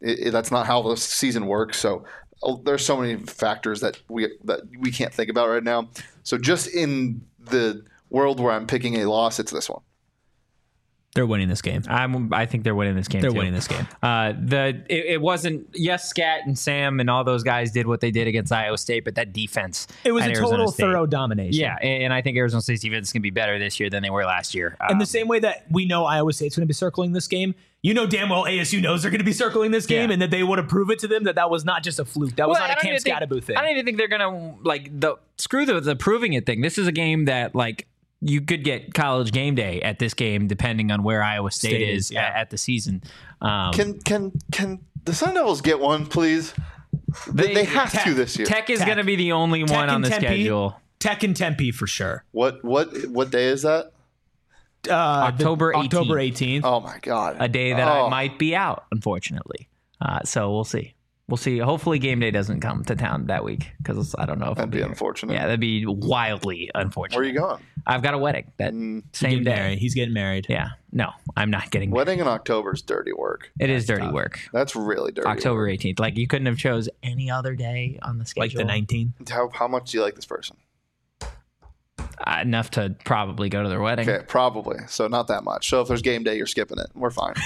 it, it, that's not how the season works. So uh, there's so many factors that we that we can't think about right now. So just in the world where I'm picking a loss, it's this one. They're winning this game. I'm, I think they're winning this game. They're too. winning this game. Uh, the it, it wasn't. Yes, Scat and Sam and all those guys did what they did against Iowa State, but that defense. It was at a Arizona total State, thorough domination. Yeah, and, and I think Arizona State's defense is going to be better this year than they were last year. In Um, the same way that we know Iowa State's going to be circling this game, you know damn well A S U knows they're going to be circling this game, Yeah. and that they would have prove it to them that that was not just a fluke. That was Well, not I a don't Camp even think- Scattaboo thing. I don't even think they're gonna like the screw the, the proving it thing. This is a game that like you could get college game day at this game depending on where Iowa State, State is is, yeah. at, at the season. Um, Can can can the Sun Devils get one, please? They, they have Tech, to this year. Tech is Tech. going to be the only Tech one on and the Tempe. schedule. Tech and Tempe for sure. What what what day is that? Uh, the- October eighteenth. October eighteenth. Oh my god! A day that Oh. I might be out, unfortunately. Uh, so we'll see. We'll see. Hopefully, game day doesn't come to town that week because I don't know if That'd I'll be here. unfortunate. Yeah, that'd be wildly unfortunate. Where are you going? I've got a wedding that Mm, same Getting day. married. He's getting married. Yeah, no, I'm not getting married. Wedding in October is dirty work. It is dirty tough. work. That's really dirty. October work. eighteenth. Like you couldn't have chose any other day on the schedule. Like the nineteenth. How how much do you like this person? Uh, enough to probably go to their wedding. Okay, probably. So not that much. So if there's game day, you're skipping it. We're fine.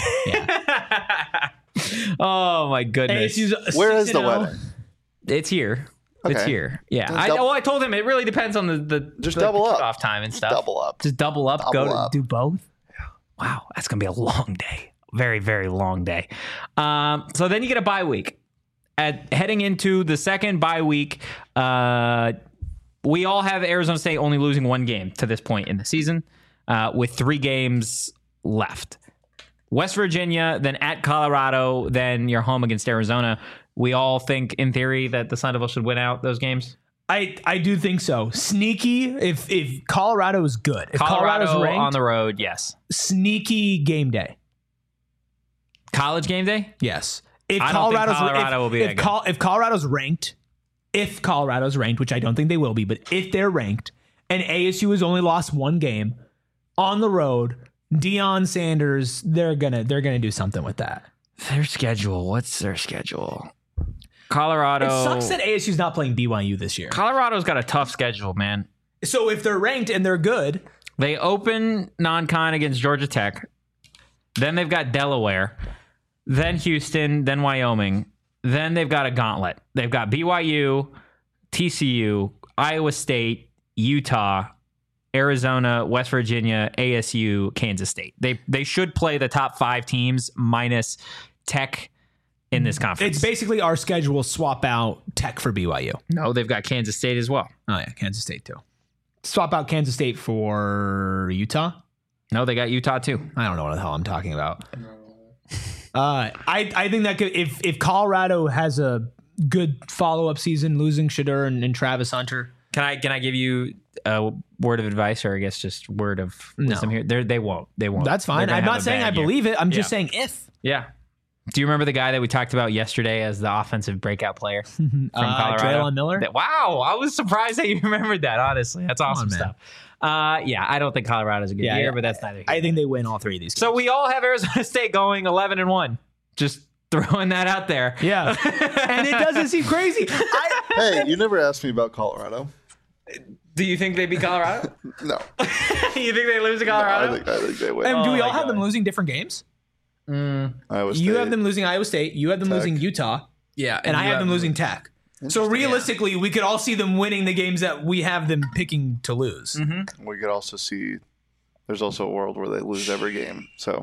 Oh my goodness. A S U's Where is six the and oh. wedding? It's here. It's Okay. here. Yeah. Then I, dou- oh, I told him it really depends on the the Just the double up. kickoff time and stuff. Double up. Just double up. go Double to up. do both. Wow, that's gonna be a long day. Very very long day. Um, so then you get a bye week. At heading into the second bye week, uh, we all have Arizona State only losing one game to this point in the season, uh, with three games left. West Virginia, then at Colorado, then you're home against Arizona. We all think, in theory, that the Sun Devils should win out those games. I, I do think so. Sneaky. If if Colorado is good, if Colorado Colorado's ranked, on the road, yes. sneaky game day. College game day? Yes. If I don't think Colorado's Colorado if, will be if, that good. Col- if Colorado's ranked, if Colorado's ranked, which I don't think they will be, but if they're ranked, and A S U has only lost one game on the road, Deion Sanders, they're gonna they're gonna do something with that. Their schedule. What's their schedule? Colorado. It sucks that A S U's not playing B Y U this year. Colorado's got a tough schedule, man. So if they're ranked and they're good, They open non-con against Georgia Tech. Then they've got Delaware. Then Houston. Then Wyoming. Then they've got a gauntlet. They've got B Y U, T C U, Iowa State, Utah, Arizona, West Virginia, A S U, Kansas State. They they should play the top five teams minus Tech in this conference. it's basically our schedule swap out Tech for B Y U. no, they've got Kansas State as well. Oh yeah, Kansas State too. Swap out Kansas State for Utah. No, they got Utah too. I don't know what the hell I'm talking about. Uh, I I think that could, if if Colorado has a good follow up season, losing Shadur and, and Travis Hunter. Can I can I give you a word of advice, or I guess just word of No. wisdom here? They're, they won't. They won't. That's They're fine. gonna I'm have not a saying I bad year. believe it. I'm just Yeah. saying if. Yeah. Do you remember the guy that we talked about yesterday as the offensive breakout player from Uh, Colorado? Traylon Miller? That- wow, I was surprised that you remembered that. Honestly, that's awesome man. stuff. Uh, yeah, I don't think Colorado's a good Yeah, year, yeah. but that's neither. here I think they win all three of these. so. We all have Arizona State going eleven and one. Just throwing that out there. Yeah, and it doesn't seem crazy. I, Hey, you never asked me about Colorado. Do you think they beat Colorado? No, You think they lose to I Colorado? think I think they win. and do Oh we my all have God. them losing different games? Iowa You have State. them losing Iowa State. You have them Tech. losing Utah, yeah, and I have them losing Tech. So realistically, we could all see them winning the games that we have them picking to lose. We could also see. There's also a world where they lose every game. So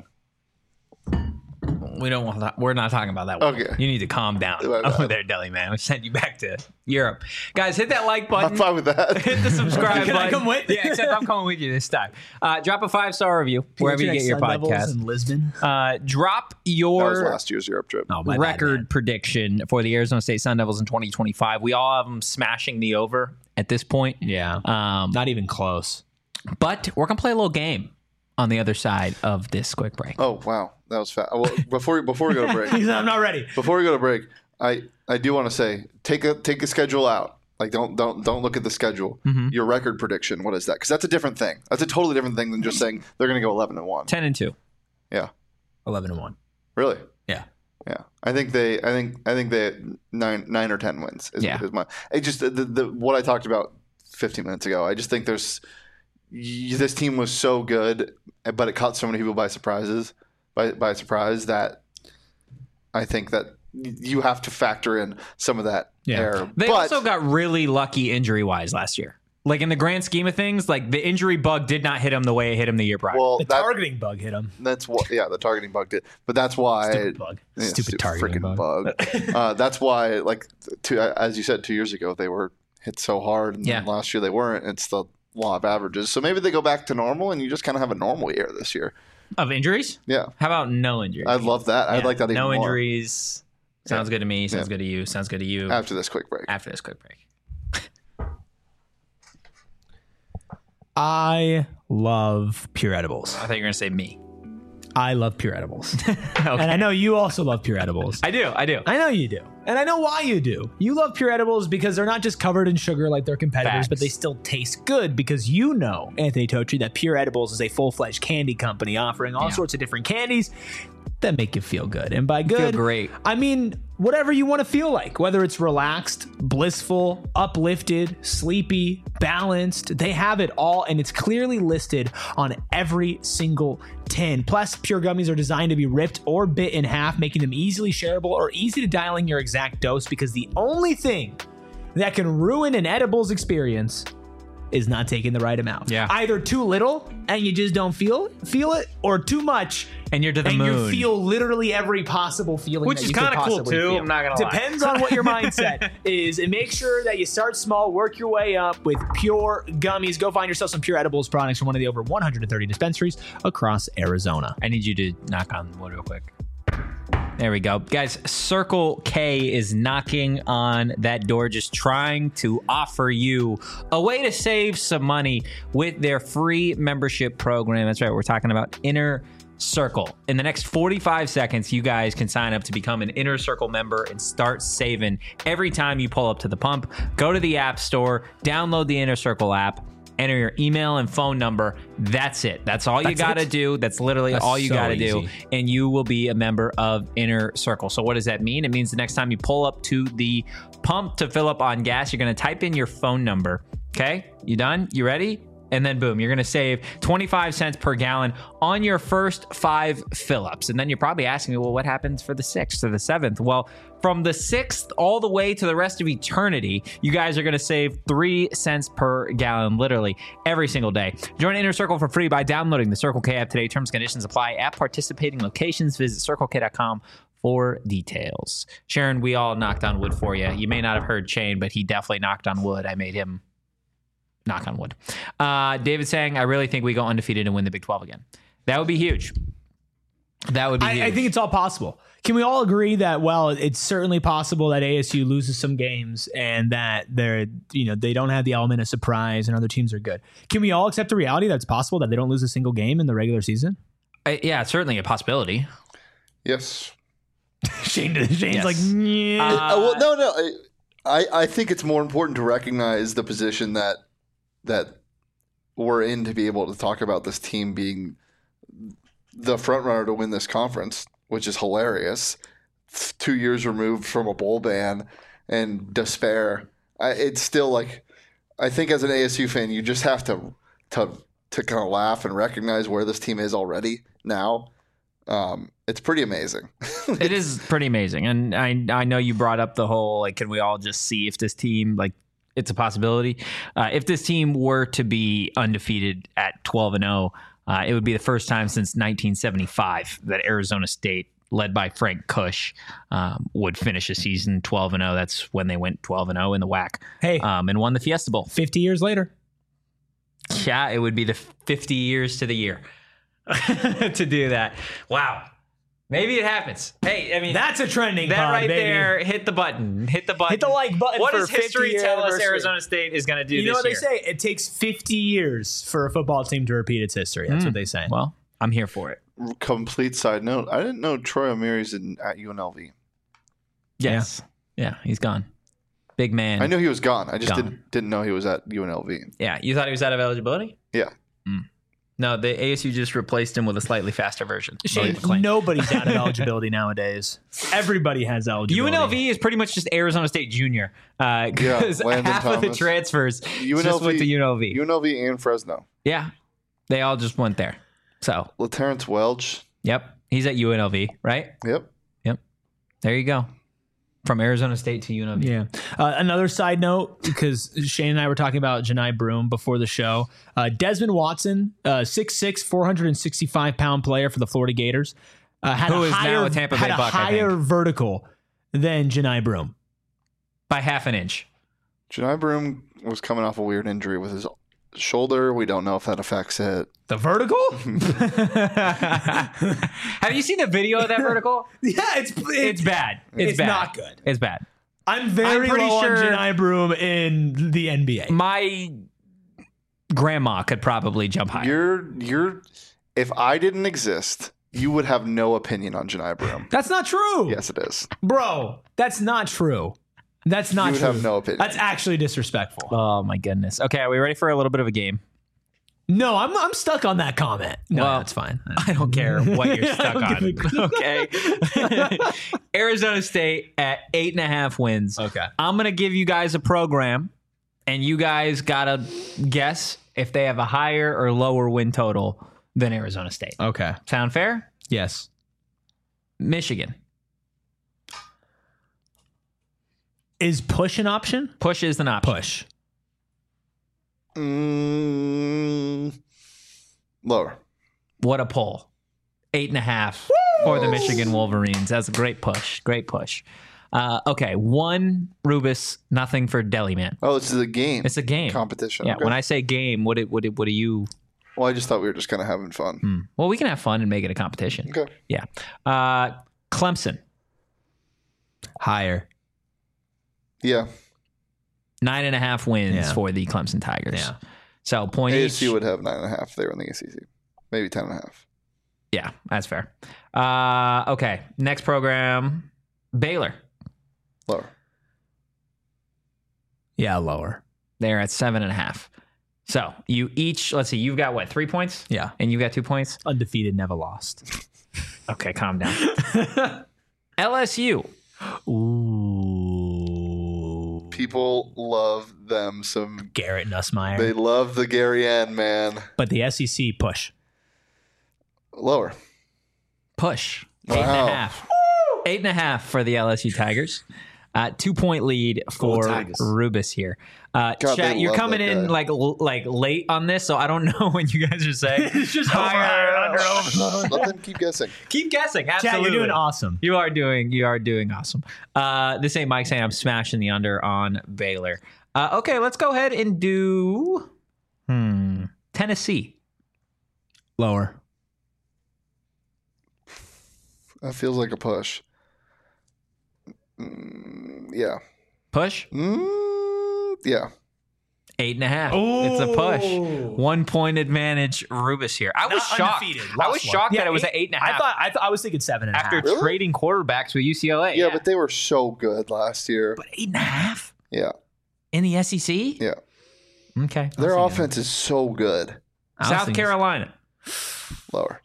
We don't want that. We're not talking about that one. Okay. You need to calm down My bad. over there, Deli Man. We send you back to Europe. Guys, hit that like I'm button. fine with that. Hit the subscribe Can I button. come with? Yeah, except I'm coming with you this time. Uh, drop a five-star review wherever you get your Sun Devils podcast. in Lisbon. Uh, drop That was your last year's Europe trip. Oh, my bad, record man. prediction for the Arizona State Sun Devils in twenty twenty-five. We all have them smashing the over at this point. Yeah, Um, not even close. but we're going to play a little game on the other side of this quick break. Oh wow, that was fast. Well, before before we go to break, He said, I'm not ready. before we go to break, I I do want to say take a take a schedule out. Like don't don't don't look at the schedule. Mm-hmm. Your record prediction. What is that? Because that's a different thing. That's a totally different thing than just saying they're going to go eleven and one. ten and two. Yeah, eleven and one. really. Yeah. Yeah, I think they, I think, I think they nine, nine or ten wins. Is, Yeah. is my. It just the, the what I talked about fifteen minutes ago. I just think there's y- this team was so good, but it caught so many people by surprises, by by surprise that I think that you have to factor in some of that Yeah. error. They but, also got really lucky injury wise last year. Like in the grand scheme of things, like the injury bug did not hit him the way it hit him the year prior. well, The that, targeting bug hit him. that's what. Yeah, the targeting bug did, but that's why. Stupid bug. Yeah, Stupid targeting freaking bug. bug. uh, that's why, like, two, as you said, two years ago they were hit so hard, and Yeah. last year they weren't. It's the law of averages. So maybe they go back to normal, and you just kind of have a normal year this year. Of injuries? Yeah, How about no injuries? I'd love that. I'd Yeah, like that even no more. injuries. Sounds good to me. Sounds Yeah. good to you. Sounds good to you. After this quick break. After this quick break. I love pure edibles. I thought you were going to say me. I love pure edibles. Okay. And I know you also love pure edibles. I do. I do. I know you do. And I know why you do. You love pure edibles because they're not just covered in sugar like their competitors, Facts. but they still taste good because you know, Anthony Totri, that Pure Edibles is a full-fledged candy company offering all Yeah. sorts of different candies that make you feel good. And by Feel good, great. I mean whatever you want to feel like, whether it's relaxed, blissful, uplifted, sleepy, balanced, they have it all, and it's clearly listed on every single tin. Plus, Pure gummies are designed to be ripped or bit in half, making them easily shareable or easy to dial in your exact dose, because the only thing that can ruin an edibles experience is not taking the right amount. Yeah. Either too little and you just don't feel feel it, or too much And you're to the and moon. you feel literally every possible feeling, Which that is you could kinda cool, possibly too, feel. I'm not gonna lie. Depends on what your mindset is, and make sure that you start small, work your way up with Pure gummies. Go find yourself some Pure Edibles products from one of the over one hundred thirty dispensaries across Arizona. I need you to knock on wood real quick. There we go. Guys, Circle K is knocking on that door, just trying to offer you a way to save some money with their free membership program. That's right. We're talking about Inner Circle. In the next forty-five seconds, you guys can sign up to become an Inner Circle member and start saving every time you pull up to the pump. Go to the App Store, download the Inner Circle app, enter your email and phone number. That's it. That's all you That's got to it? do. That's literally That's all you so got to do. easy. And you will be a member of Inner Circle. So what does that mean? It means the next time you pull up to the pump to fill up on gas, you're going to type in your phone number. Okay? You done? You ready? And then boom, you're going to save twenty-five cents per gallon on your first five fill-ups. And then you're probably asking me, well, what happens for the sixth or the seventh? Well, from the sixth all the way to the rest of eternity, you guys are going to save three cents per gallon, literally every single day. Join Inner Circle for free by downloading the Circle K app today. Terms and conditions apply at participating locations. Visit circle k dot com for details. Sharon, we all knocked on wood for you. You may not have heard Shane, but he definitely knocked on wood. I made him knock on wood. Uh, David saying, I really think we go undefeated and win the Big twelve again. That would be huge. That would be huge. I, I think it's all possible. Can we all agree that, well, it's certainly possible that A S U loses some games and that they're, you know, they don't have the element of surprise and other teams are good. Can we all accept the reality that it's possible that they don't lose a single game in the regular season? I, yeah, it's certainly a possibility. Yes. Shane, Shane's Yes. like, yeah. Uh, well, no, no. I, I I think it's more important to recognize the position that that we're in to be able to talk about this team being the front runner to win this conference, which is hilarious. Two years removed from a bowl ban and despair. I, it's still like, I think as an A S U fan, you just have to to to kind of laugh and recognize where this team is already now. Um, it's pretty amazing. It is pretty amazing. And I I know you brought up the whole, like, can we all just see if this team, like, it's a possibility. Uh, if this team were to be undefeated at twelve and oh, uh, it would be the first time since nineteen seventy-five that Arizona State, led by Frank Kush, um, would finish a season twelve and oh. That's when they went twelve and oh in the W A C. Hey. um, and won the Fiesta Bowl. fifty years later. Yeah, it would be the fifty years to the year to do that. Wow. Maybe it happens. Hey, I mean, That's a trending that pod, right baby. there. Hit the button. Hit the button. Hit the like button What for does history fifty-year tell us anniversary. Arizona State is going to do You this know what year? they say? It takes fifty years for a football team to repeat its history. That's what they say. Well, I'm here for it. Complete side note: I didn't know Troy O'Meary's in at U N L V. Yes. Yeah, he's gone. Big man. I knew he was gone. I just Gone. didn't didn't know he was at U N L V. Yeah, you thought he was out of eligibility? Yeah. No, the A S U just replaced him with a slightly faster version. Shane, nobody's out of eligibility nowadays. Everybody has eligibility. U N L V is pretty much just Arizona State Junior because Yeah, Landon half of the Thomas. transfers U N L V, just went to U N L V. U N L V and Fresno. Yeah, they all just went there. So, LaTerrence Welch. yep, he's at U N L V, right? Yep. Yep. There you go. From Arizona State to U N L V. Yeah. Uh, another side note, because Shane and I were talking about Janai Broom before the show. Uh, Desmond Watson, uh, six six, four hundred sixty-five pound player for the Florida Gators, uh, had Who a is now higher, a Tampa had Bay a Buck, I higher think. vertical than Janai Broom. By half an inch. Janai Broom was coming off a weird injury with his shoulder. We don't know if that affects it. The vertical? Have you seen the video of that vertical? Yeah, it's It's bad. It's, It's bad. not good. It's bad. I'm very I'm pretty low sure- on Janai Broom in the N B A. My grandma could probably jump higher. You're you're. If I didn't exist, you would have no opinion on Janai Broom. That's not true. Yes, it is. Bro, that's not true. That's not You would true. have no opinion. That's actually disrespectful. Oh my goodness. Okay, are we ready for a little bit of a game? No, I'm I'm stuck on that comment. No, Well, that's fine. I don't care what you're I stuck don't on. give a- Okay. Arizona State at eight and a half wins. Okay. I'm gonna give you guys a program, and you guys gotta guess if they have a higher or lower win total than Arizona State. Okay. Sound fair? Yes. Michigan. Is push an option? Push is an option. Push. Mm, lower. What a pull. Eight and a half for the Michigan Wolverines. That's a great push. Great push. Uh, okay, one Rubus, nothing for Deliman. Oh, this is a game. It's a game. competition. Yeah. Okay. When I say game, what it, what it, what do you? well, I just thought we were just kind of having fun. Hmm. Well, we can have fun and make it a competition. Okay. Yeah. Uh, Clemson, Higher. Yeah. nine and a half wins Yeah. for the Clemson Tigers. Yeah. So point A S U each. would have nine and a half. They were in the A C C. Maybe ten and a half. Yeah, that's fair. Uh, okay. Next program, Baylor. Lower. Yeah, lower. They're at seven and a half. So you each, let's see, you've got what, three points? Yeah. And you've got two points? Undefeated, never lost. Okay, calm down. L S U. Ooh. People love them some. Garrett Nussmeier. They love the Gary Ann, man. But the S E C push. Lower. Push. Eight and Wow. a half. Eight and a half for the L S U Tigers. Uh, two point lead for Tigers. Rubus here. Uh, God, chat, they you're love coming that in guy. like l- like late on this, so I don't know when you guys are saying. It's just higher, over, higher, under, over. Let them keep guessing. Keep guessing. Chat, Absolutely, you're doing awesome. You are doing. You are doing awesome. Uh, this ain't Mike saying I'm smashing the under on Baylor. Uh, okay, let's go ahead and do hmm Tennessee. Lower. That feels like a push. Mm, yeah. Push Mm, yeah. eight and a half. It's a push. One point advantage. Rubus here. I was Not shocked. undefeated. I Lost was one. shocked Yeah, that it was eight- at eight and a half. I thought I thought I was thinking seven and a half. after Really? trading quarterbacks with U C L A. Yeah, but they were so good last year. But eight and a half Yeah. in the S E C. Yeah. Okay. Their I'll see offense is so good. I was South thinking- Carolina. Lower.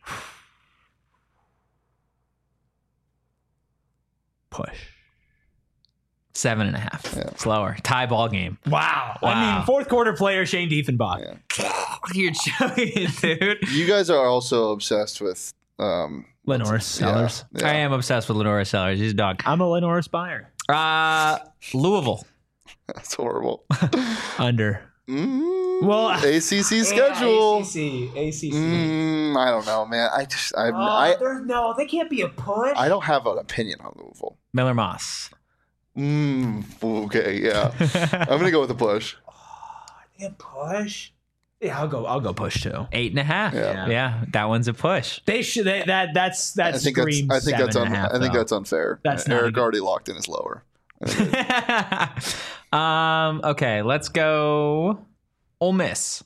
Push. Seven and a half. Yeah. Slower. Tie ball game. Wow. Wow. I mean, fourth quarter player Shane Diefenbach. Yeah. You're joking, dude. You guys are also obsessed with um Lenoris Sellers. Yeah, I yeah. am obsessed with Lenora Sellers. He's a dog. I'm a Lenoris buyer. Uh, Louisville. That's horrible. Under. Mm, Well, A C C schedule. A C C. A C C. Mm, I don't know, man. I just I Oh, I there's- no, they can't be a push. I don't have an opinion on Louisville. Miller Moss. Mm, okay, yeah. I'm gonna go with the push. They a push. Yeah, I'll go. I'll go push too. Eight and a half. Yeah. Yeah, that one's a push. They should. They, that that's that I think that's screams I think seven that's and un, a half, I think though. that's unfair. That's not Eric a good- already locked in his lower. I think it- um. Okay, let's go. Ole Miss.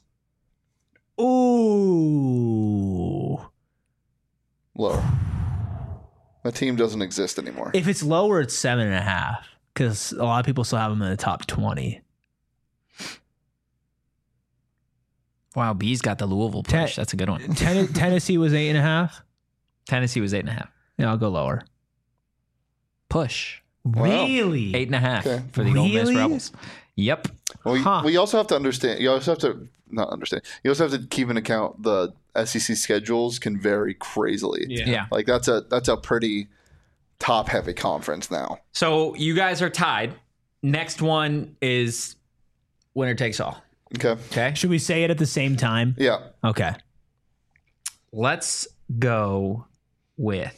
Ooh. lower. That team doesn't exist anymore. If it's lower, it's seven and a half because a lot of people still have them in the top twenty. Wow, B's got the Louisville push. Ten- That's a good one. Ten- Tennessee was eight and a half. Tennessee was eight and a half. Yeah, I'll go lower. Push. Really? Eight and a half Okay. for the Ole Miss Really? Rebels. Yep. Well, we, Huh. we also have to understand. You also have to not understand. You also have to keep in account the S E C schedules can vary crazily. Yeah. Yeah. Like that's a that's a pretty top heavy conference now. So you guys are tied. Next one is winner takes all. Okay. Okay. Should we say it at the same time? Yeah. Okay. Let's go with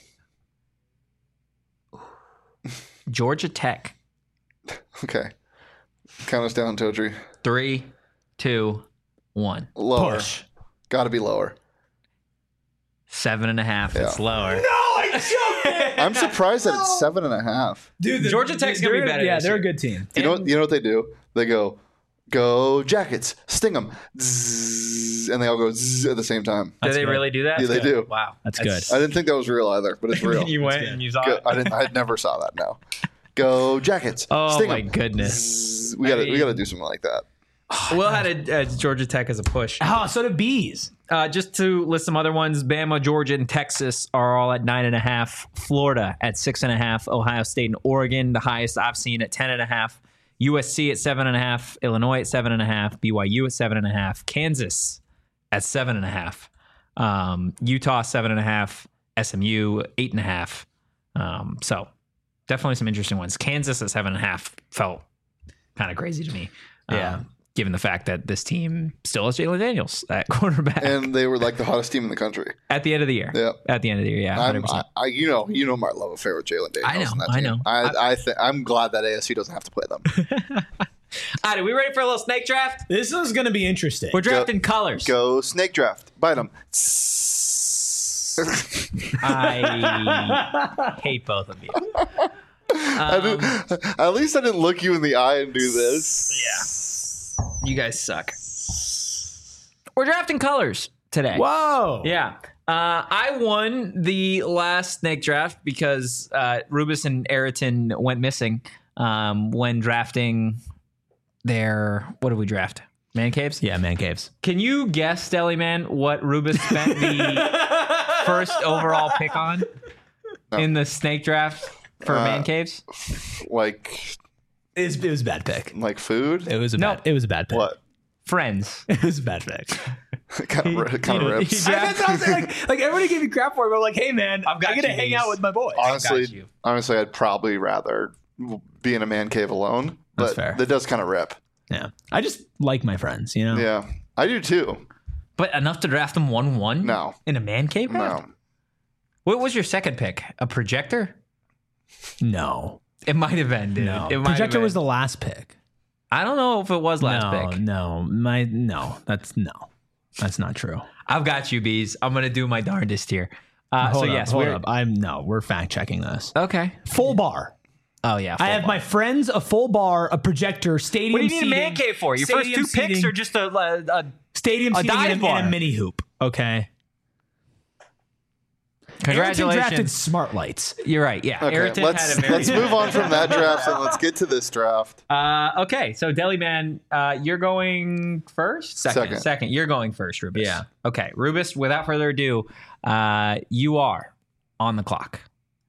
Georgia Tech. Okay. Count us down, Totri. Three, two, one. Lower. Push. Got to be lower. Seven and a half. It's Yeah. lower. No, I choked I'm surprised that it's seven and a half. Dude, the- Georgia Tech's gonna be they're- better Yeah, this they're year. a good team. You know what? You know what they do? They go, go Jackets, sting them, zzz, and they all go zzz at the same time. Do That's they good. really do that? Yeah, they do. Wow. That's good. I didn't think that was real either, but it's real. you went and you saw Go, it. I didn't. I never saw that. No. Go Jackets. Oh sting my 'em. goodness. Zzz. We got to. We got to do something like that. Will had a, uh, Georgia Tech as a push. Oh, so do bees. Uh, just to list some other ones, Bama, Georgia, and Texas are all at nine and a half. Florida at six and a half. Ohio State and Oregon, the highest I've seen, at ten and a half. U S C at seven and a half. Illinois at seven and a half. B Y U at seven and a half. Kansas at seven and a half. Um, Utah seven and a half. S M U eight and a half. Um, so definitely some interesting ones. Kansas at seven and a half felt kind of crazy to me. Yeah. Um, given the fact that this team still has Jalen Daniels at quarterback And they were like the hottest team in the country. at the end of the year. Yeah. At the end of the year, yeah. one hundred I'm, percent. I, I, you know, you know my love affair with Jalen Daniels. I know, and that I team. know. I, I think I'm glad that A S U doesn't have to play them. All right, are we ready for a little snake draft? This is going to be interesting. We're drafting colors. Go snake draft. Bite them. I hate both of you. Um, At least I didn't look you in the eye and do this. yeah. You guys suck. We're drafting colors today. Whoa. Yeah. Uh, I won the last snake draft because uh, Rubus and Ayrton went missing um, when drafting their. What did we draft? Man caves? Yeah, man caves. Can you guess, Deli Man, what Rubus spent the first overall pick on No. in the snake draft for Uh, man caves? Like, It was, it was a bad pick. like food. It was a No. bad. It was a bad pick. What? Friends. It was a bad pick. kind of, kind you of know, rips. he- I meant that I was like, like everybody gave me crap for it, but I'm like, hey man, I've got I'm gonna you, hang Bees. out with my boys. got honestly, you. honestly, I'd probably rather be in a man cave alone. That's But fair. that does kind of rip. Yeah, I just like my friends, you know. Yeah, I do too. But enough to draft them one one? No. In a man cave draft? No, What was your second pick? A projector? No, It might have been, dude. no. It might have Projector been. was the last pick. I don't know if it was last no, pick. no, my no. That's no. That's not true. I've got you, Bees. I'm gonna do my darndest here. Uh, hold so up, yes, hold we're up. I'm no. We're fact checking this. okay. Full bar. Oh yeah, I have full my friends, a full bar, a projector, stadium. What do you need a seating, man cave for? Your first stadium two picks seating, are just a, a, a stadium a seating dive and, a, bar. and a mini hoop. Okay. Ayrton congratulations. drafted smart lights. You're right. Yeah, okay. Ayrton Let's had a very. let's move on from that draft and let's get to this draft. Uh, okay, so Deli Man, uh, you're going first. Second. Second. You're going first, Rubus. Yeah. Okay, Rubus. Without further ado, uh, you are on the clock.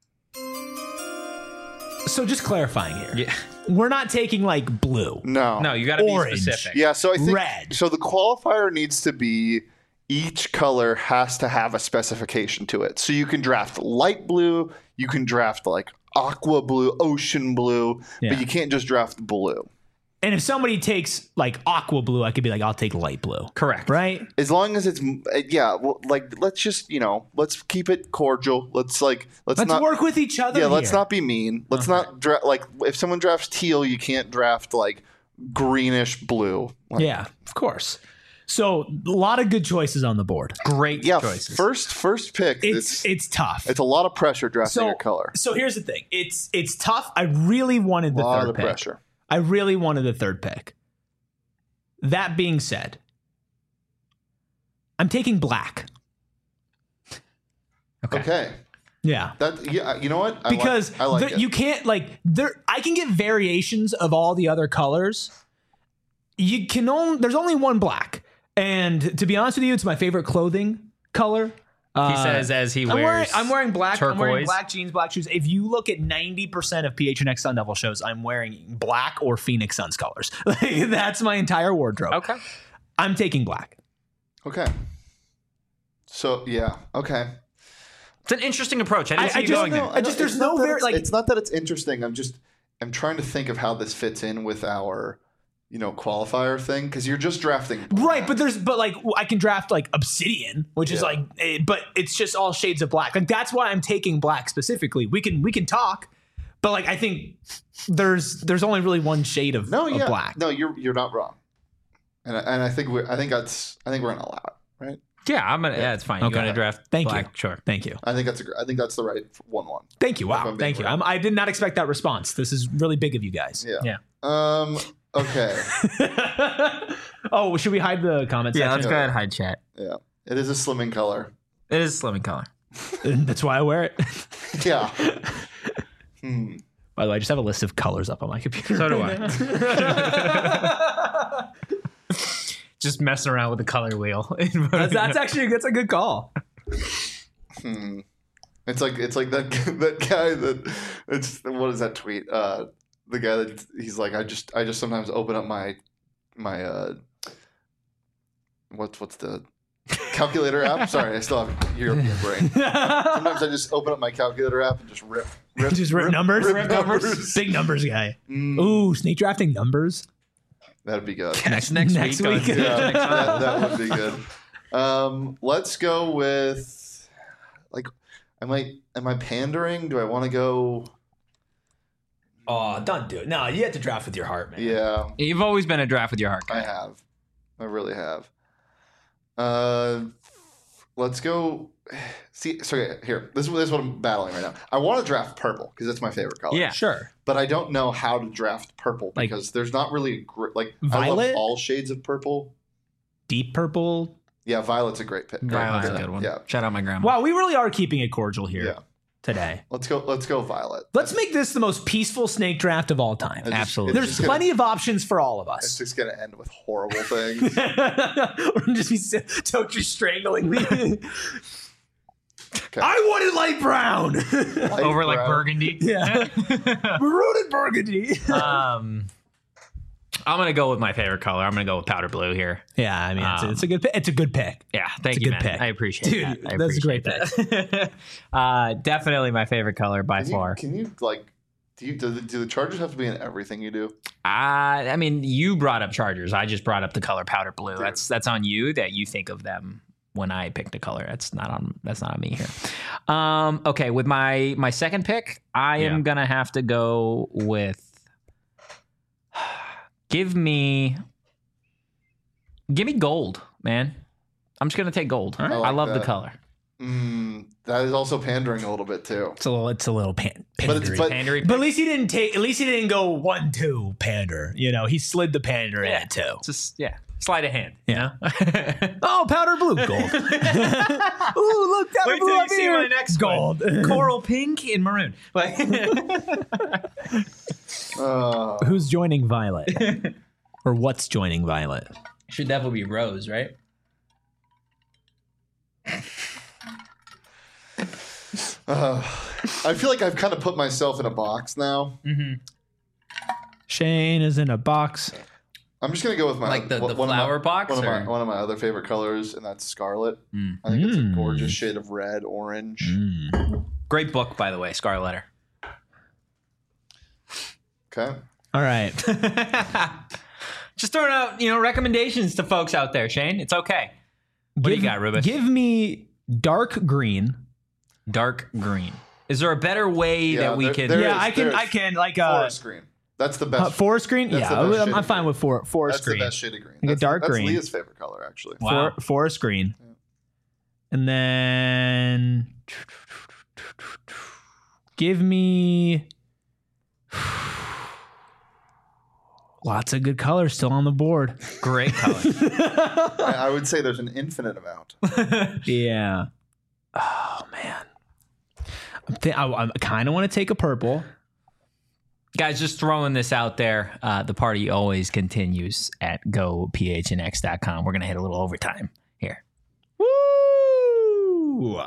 So just clarifying here. Yeah. We're not taking like blue. No, No, you got to be Orange. specific. Yeah, so I think Red. so. The qualifier needs to be each color has to have a specification to it. So you can draft light blue, you can draft like aqua blue, ocean blue, Yeah. but you can't just draft blue. And if somebody takes like aqua blue, I could be like, I'll take light blue. Correct. Right? As long as it's yeah, well, like let's just you know let's keep it cordial. Let's like let's, Let's not work with each other. yeah, let's here. not be mean. Let's not draft like if someone drafts teal, you can't draft like greenish blue. Like, Yeah, of course. So a lot of good choices on the board. Great yeah. choices. First first pick. It's It's it's tough. it's a lot of pressure drafting so your color. so here's the thing. It's it's tough. I really wanted A the lot third of pick. pressure. I really wanted the third pick. That being said, I'm taking black. Okay. Okay. Yeah. That yeah, you know what? I Because like, I like there- it. you can't like there I can get variations of all the other colors. You can only there's only one black. And to be honest with you, it's my favorite clothing color. He Uh, says as he I'm wears. wearing, I'm wearing black. I'm wearing turquoise. black jeans, black shoes. If you look at ninety percent of P H N X Sun Devil shows, I'm wearing black or Phoenix Suns colors. Like, that's my entire wardrobe. Okay. I'm taking black. Okay. So yeah. Okay. It's an interesting approach. I didn't I- see I you just going know- there. I just- there's it's not no that very, it's, like- it's not that it's interesting. I'm just I'm trying to think of how this fits in with our, you know, qualifier thing because you're just drafting. Right, but there's but like I can draft like Obsidian, which is Yeah. like, eh, but it's just all shades of black. Like that's why I'm taking black specifically. We can we can talk, but like I think there's there's only really one shade of, No, of yeah. black. No, you're you're not wrong. And I, and I think we I think that's I think we're gonna allow it, right? Yeah, I'm gonna. Yeah, it's fine. You're Okay. gonna draft. Thank black. you. Sure. Thank you. I think that's a gr- I think that's the right one one. Thank you. If Wow. I'm being Thank you. real. I'm, I did not expect that response. This is really big of you guys. Yeah. Yeah. Um. Okay. Oh, should we hide the comment Yeah. section? Let's go ahead and hide chat. Yeah. It is a slimming color. It is slimming color. That's why I wear it. Yeah. hmm. By the way, I just have a list of colors up on my computer. So do right I. Just messing around with the color wheel. That's, that's actually that's a good call. Hmm. It's like it's like that that guy that it's what is that tweet? Uh, the guy that he's like I just I just sometimes open up my my uh what's what's the calculator app? Sorry, I still have European brain. Sometimes I just open up my calculator app and just rip, rip Just rip numbers? rip Rip numbers. Big numbers guy. Mm, Ooh, snake drafting numbers. that'd be good. next next, Next week. week. on- Yeah, that, that would be good. Um, let's go with like, am I am I pandering? Do I want to go? Oh, don't do it. No, you have to draft with your heart, man. Yeah, You've always been a draft with your heart I guy. have. I really have. Uh, let's go. See, so okay, here. This is, this is what I'm battling right now. I want to draft purple because that's my favorite color. Yeah. Sure. But I don't know how to draft purple Like- because there's not really a gr- like I Violet? love all shades of purple. Deep purple. Yeah, violet's a great pick. Great Violet's a pick. good one. Yeah, Shout out my grandma. Wow, we really are keeping it cordial here yeah. today. Let's go. Let's go violet. Let's make this the most peaceful snake draft of all time. It's just- Absolutely. it's There's just gonna- plenty of options for all of It's us. just gonna end with horrible things. We're just be Tochi strangling me. Okay. I wanted light brown. Light Over like brown. burgundy. Yeah. Maroon and burgundy. um, I'm gonna go with my favorite color. I'm gonna go with powder blue here. Yeah, I mean, it's, a, Um, it's a good pick. It's a good pick. Yeah, thank It's a you, good man. pick. I appreciate Dude, that. I that's a great appreciate that. uh, definitely my favorite color by Can you, far. can you like? Do you do the, do the Chargers have to be in everything you do? Uh, I mean, you brought up Chargers. I just brought up the color powder blue. That's that's on you that you think of them when I picked a color. That's not on that's not on me here. Um, okay, with my my second pick, I Yeah. am gonna have to go with. Give me, give me gold, man. I'm just gonna take gold. I I like love the that. color. Mm, that is also pandering a little bit too. It's a little. It's a little pan. But it's pandery. but Pandery. But at least he didn't take. At least he didn't go one two pander. You know, he slid the pander in Yeah. it too. just yeah, sleight of hand. Yeah. You know? Oh, powder blue, gold. Ooh, look, powder Wait blue till you up see here. my next gold. Coral pink and maroon. Like, uh, Who's joining Violet? Or what's joining Violet? should definitely be rose, right? uh, I feel like I've kind of put myself in a box now. Mm-hmm. Shane is in a box. I'm just gonna go with my Like the- one- the one of my- flower box, One of my or- one of my other favorite colors, and that's scarlet. Mm. I think it's a Mm. gorgeous shade of red, orange. Mm. Great book, by the way, Scarlet Letter. Okay. All right. Just throwing out, you know, recommendations to folks out there, Shane. It's okay. What do you got, Rubik? Give me dark green. Dark green. Is there a better way Yeah, that we there- can? there yeah, is- I can. there's I can like uh, Forest green. That's the best. uh forest green. That's Yeah, the best I'm, shade I'm of fine green. with for, forest that's green. the best shade of green. Like a That's, dark that's green. Leah's favorite color, actually. Wow. For, forest green. And then give me lots of good colors still on the board. Great color. I, I would say there's an infinite amount. Yeah. Oh man. I'm th- I, I kind of want to take a purple. Guys, just throwing this out there. Uh, the party always continues at go p h n x dot com. We're going to hit a little overtime here. Woo!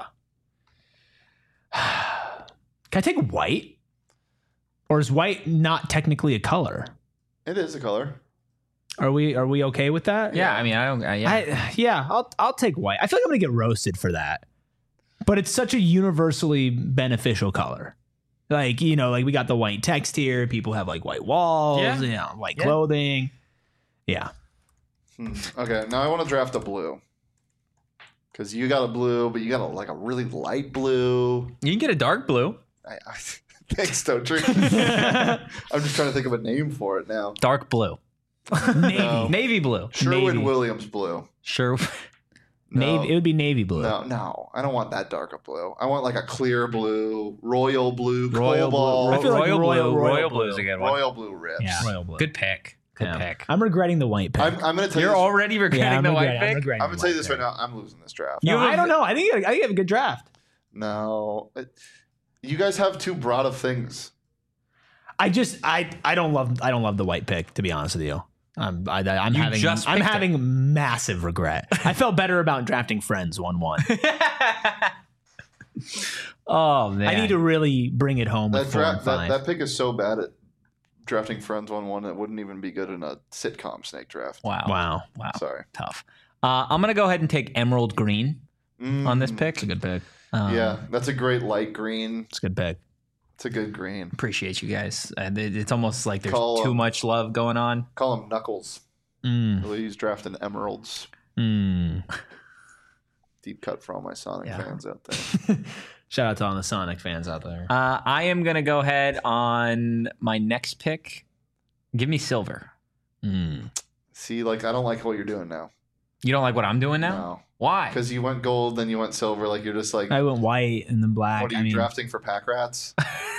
Can I take white? Or is white not technically a color? It is a color. Are we are we okay with that? Yeah, I mean, I don't. Uh, yeah. I, yeah, I'll I'll take white. I feel like I'm gonna get roasted for that, but it's such a universally beneficial color. Like, you know, like we got the white text here. People have like white walls, Yeah. you know, white Yeah. clothing. Yeah. Hmm. Okay, now I want to draft a blue. Because you got a blue, but you got a, like a really light blue. You can get a dark blue. I, I, thanks, Stotree. I'm just trying to think of a name for it now. Dark blue. Navy. No. Navy blue. Sherwin Navy. Williams blue. Sure. No. Navy. It would be navy blue. No, no, I don't want that dark of blue. I want like a clear blue, royal blue, Royal cobalt, blue. I feel like Royal, royal- blue. royal Royal blue. blue is a good one. royal blue ribs. Yeah. Royal blue. Good pick. Good Yeah. pick. I'm regretting the white pick. I'm, I'm going to tell You're you. This, already regretting yeah, I'm the regretting, white I'm pick? regretting I'm the going to tell you white this pick. right now. I'm losing this draft. No, You have- I don't know. I think I think you have a good draft. No, it- you guys have too broad of things. I just I I don't love I don't love the white pick, to be honest with you. I'm I, I'm You having just I'm picked it. having massive regret. I felt better about drafting Friends one one. Oh, man. I need to really bring it home with That, four dra- and that five. that pick is so bad at drafting friends one one. It wouldn't even be good in a sitcom snake draft. Wow. wow, Wow. Sorry. Tough. Uh, I'm going to go ahead and take Emerald Green on this Mm, pick. it's a good pick. Um, Yeah, that's a great light green. It's a good pick. It's a good green. Appreciate you guys. Uh, it- it's almost like there's Call, too um, much love going on. Call him Knuckles. Mm, Really, he's drafting emeralds. mm. Deep cut for all my Sonic Yeah. fans out there. Shout out to all the Sonic fans out there. Uh, I am going to go ahead on my next pick. Give me silver. Mm. See, like I don't like what you're doing now. You don't like what I'm doing now? No, Why? because you went gold, then you went silver. Like you're just like, I went white and then black. what are you I mean, drafting for pack rats?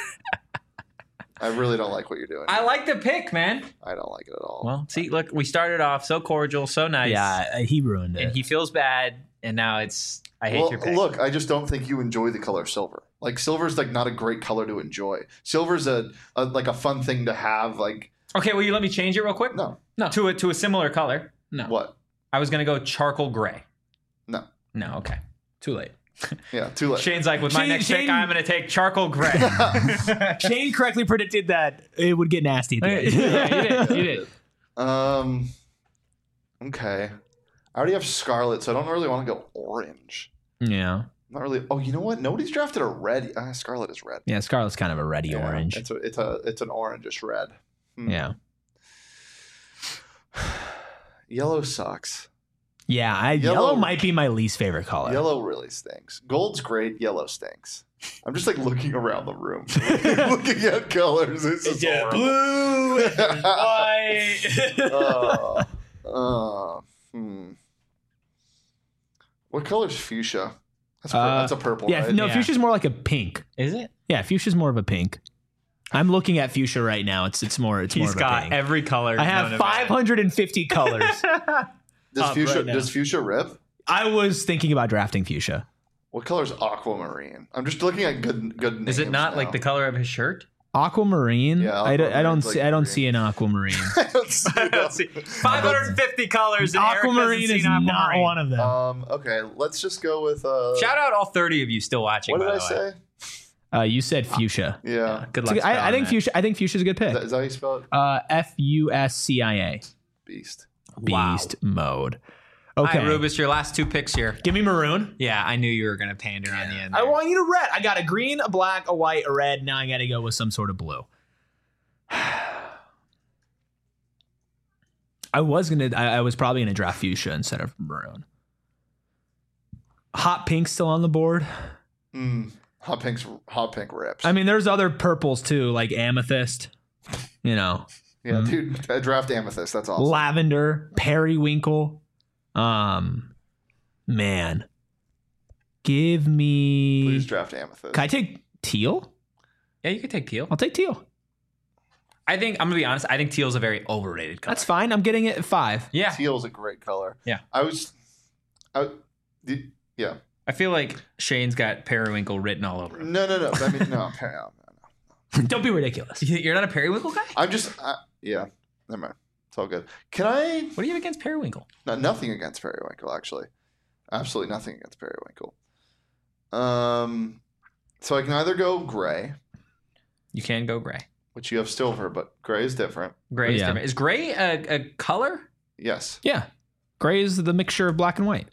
I really don't like what you're doing. I like the pick, man. I don't like it at all. Well, see, look, we started off so cordial, so nice. yeah, he ruined it. And he feels bad, and now it's, I hate well, your pick. look, I just don't think you enjoy the color silver. Like silver's like not a great color to enjoy. Silver's a, a like a fun thing to have. Like Okay, will you let me change it real quick? no, No, to a, to a similar color. No. what? I was going to go charcoal gray. No, No, okay. Too late. yeah, too late. Shane's like, with my Shane- next pick, Shane- I'm going to take charcoal gray. Shane correctly predicted that it would get nasty at the end. yeah, you did. You did. Um, okay. I already have scarlet, so I don't really want to go orange. Yeah. Not really. Oh, you know what? Nobody's drafted a red. Uh, scarlet is red. Yeah, Scarlet's kind of a reddy Yeah, orange. It's a it's a it's an orangish red. Hmm. Yeah. Yellow sucks. Yeah, I, Yellow- yellow, might be my least favorite color. Yellow really stinks. Gold's great. Yellow stinks. I'm just like looking around the room, looking at colors. This is horrible. blue, white. uh, uh, hmm. What color's fuchsia? That's, pur- Uh, that's a purple, yeah, right? no, Yeah. fuchsia's more like a pink. Is it? Yeah, fuchsia's more of a pink. I'm looking at fuchsia right now. It's it's more it's more He's of a got pink. every color. I have known to five hundred fifty colors. Does up fuchsia right now. does fuchsia rip? I was thinking about drafting fuchsia. What color's aquamarine? I'm just looking at good good names. Is it not now. like the color of his shirt? Aquamarine. Yeah, I, don't- I don't aquamarine's see. like I don't green. see an aquamarine. I don't see that. five hundred fifty colors. And Eric doesn't aquamarine see is an not aquamarine. one of them. Um. Okay. Let's just go with. Uh, Shout out all thirty of you still watching. What did by I the way. say? Uh, you said fuchsia. Yeah. Good It's luck. a- I, I spelling think that. fuchsia. I think fuchsia's a good Is pick. that, is that how you spell it? Uh, F U S C I A. Beast. Wow. Beast mode. All Okay. right, Rubus, your last two picks here. Give me maroon. Yeah, I knew you were going to pander on the end. I there. want you to red. I got a green, a black, a white, a red. Now I got to go with some sort of blue. I was gonna. I, I was probably gonna draft fuchsia instead of maroon. Hot pink still on the board. Mm. Hot pink's hot pink rips. I mean, there's other purples too, like amethyst. You know, yeah, mm. dude. I draft amethyst. That's awesome. lavender, periwinkle. Um, man, give me. Please draft amethyst. Can I take teal? Yeah, you could take teal. I'll take teal. I think, I'm going to be honest, I think teal's a very overrated color. That's fine. I'm getting it at five. Yeah. Teal's a great color. Yeah. I was. I. the- Yeah. I feel like Shane's got periwinkle written all over him. No, no, no. I mean, no. no, no, no. Don't be ridiculous. You're not a periwinkle guy? I'm just, uh, yeah, never mind. It's all good. Can I? What do you have against periwinkle? No, nothing against periwinkle, actually. Absolutely nothing against periwinkle. Um, so I can either go gray, You can go gray. which you have silver, but gray is different. Gray is Yeah. different. Is gray a, a color? Yes. Yeah. Gray is the mixture of black and white.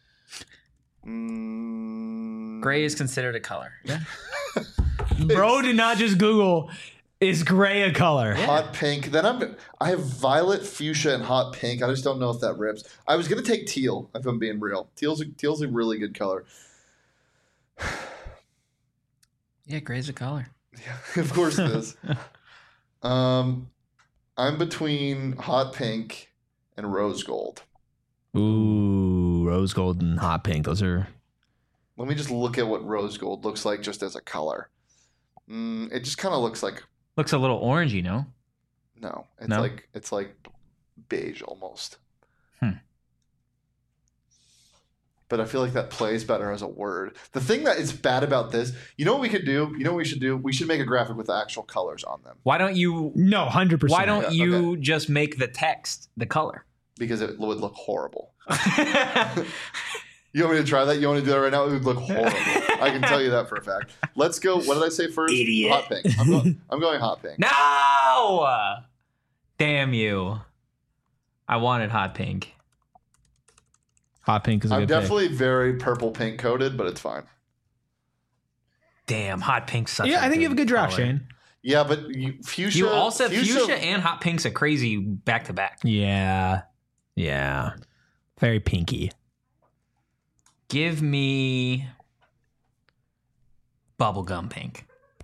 Mm, Gray is considered a color. Yeah. Bro did not just Google, is gray a color? Hot pink. Then I'm. I have violet, fuchsia, and hot pink. I just don't know if that rips. I was gonna take teal. If I'm being real, teal's a, teal's a really good color. Yeah, gray's a color. Yeah, of course it is. um, I'm between hot pink and rose gold. Ooh, rose gold and hot pink. Those are. Let me just look at what rose gold looks like just as a color. Mm, it just kind of looks like Looks a little orangey, no? no. It's No? like it's like beige almost. Hmm. But I feel like that plays better as a word. The thing that is bad about this, you know what we could do? You know what we should do? We should make a graphic with the actual colors on them Why don't you No, one hundred percent. why don't Yeah, you just make the text the color? because it would look horrible. You want me to try that? You want to do that right now? It would look horrible. I can tell you that for a fact. Let's go. What did I say first? Idiot. Hot pink. I'm going, I'm going hot pink. No! Damn you. I wanted hot pink. Hot pink is a I'm good pick. definitely very purple pink coated, but it's fine. Damn, hot pink's such Yeah, a I think you have a good draft, color. Shane. Yeah, but you, fuchsia. You also fuchsia, and hot pink's a crazy back to back. Yeah. Yeah. Very pinky. Give me bubblegum pink.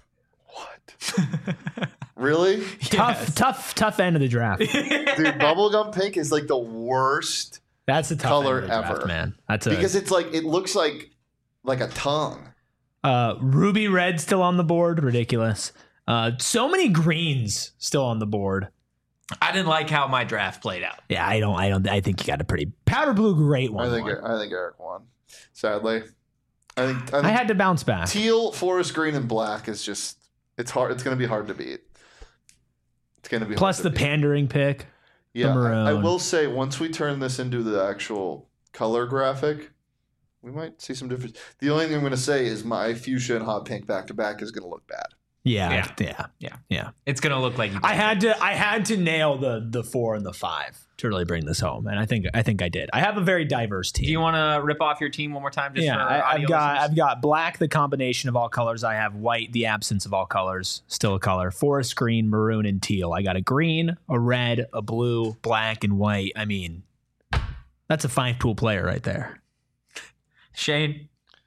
What? Really? Tough, Yes. tough, tough end of the draft. Dude, bubblegum pink is like the worst That's a tough Color end of the draft, ever. man. That's a because it's like it looks like like a tongue. uh, ruby red still on the board. Ridiculous. Uh, so many greens still on the board. I didn't like how my draft played out. Yeah, I don't. I don't. I think you got a pretty powder blue. Great one. I think one. I think Eric won. Sadly, I think I, think I had to bounce back. teal, forest green, and black is just it's hard. It's going to be hard to beat. It's going to be Plus hard the to beat. pandering pick. Yeah, I, I maroon. will say once we turn this into the actual color graphic, we might see some difference. The only thing I'm going to say is my fuchsia and hot pink back to back is going to look bad. Yeah, Yeah. yeah, Yeah. yeah. It's gonna look like you. I had to. I had to nail the the four and the five to really bring this home, and I think I think I did. I have a very diverse team. Do you want to rip off your team one more time? Just yeah, for I, audio I've got listeners? I've got black, the combination of all colors. I have white, the absence of all colors, still a color. Forest green, maroon, and teal. I got a green, a red, a blue, black, and white. I mean, that's a five tool player right there. Shane.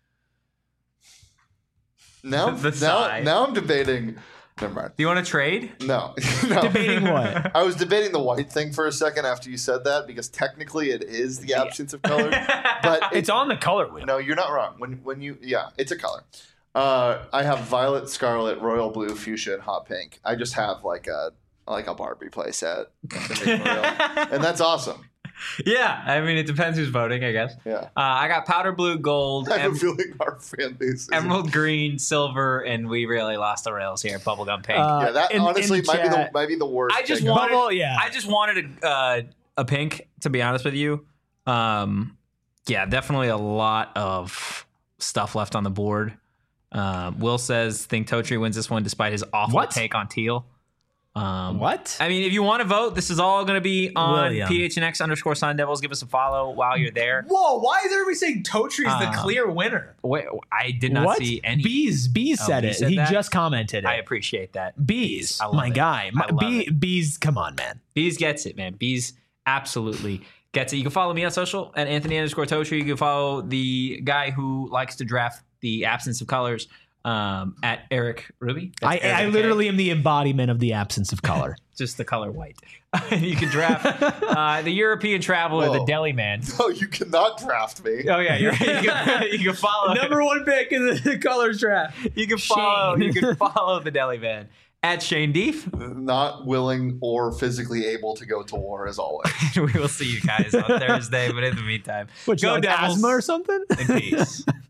Now, The now, side. now I'm debating. Never mind. Do you want to trade? No, no. Debating what? I was debating the white thing for a second after you said that because technically it is the absence of color, but it, It's on the color wheel. no, you're not wrong. When when you yeah, it's a color. Uh, I have violet, scarlet, royal blue, fuchsia, and hot pink. I just have like a like a Barbie playset, and that's awesome. Yeah, I mean it depends who's voting, I guess. Yeah, Uh, I got powder blue, gold, I have em- a feeling our fan base. Is emerald green, silver, and we really lost the rails here. Bubblegum pink. Uh, yeah, that in- in honestly the might be the chat- might be the worst. I just pick. wanted- Bubble, yeah. I just wanted a uh, a pink, to be honest with you. Um, yeah, definitely a lot of stuff left on the board. Um, Will says think Totri wins this one despite his awful What? take on teal. Um, What? I mean, if you want to vote, this is all going to be on William. P H N X underscore Sun Devils. Give us a follow while you're there. Whoa! Why is everybody saying Totri is the clear winner? Wait, I did not what? see any. Bees. Bees Oh, said Bees it. said he that? just commented it. I appreciate that. Bees, I love my it. guy. My, I love Bee, it. Bees, come on, man. Bees gets it, man. Bees absolutely gets it. You can follow me on social at Anthony underscore Totri. You can follow the guy who likes to draft the absence of colors um, at Eric Ruby. That's I, Eric I with a K. literally am the embodiment of the absence of color. Just the color white. You can draft uh, the European traveler, the Whoa. deli man. No, you cannot draft me. Oh yeah, you're right. You can, you can follow Number one pick in the colors draft. You can follow. Shane. You can follow the deli man at Shane Deef. Not willing or physically able to go to war as always. We will see you guys on Thursday. But in the meantime, What, you go like Devils asthma or something? in peace.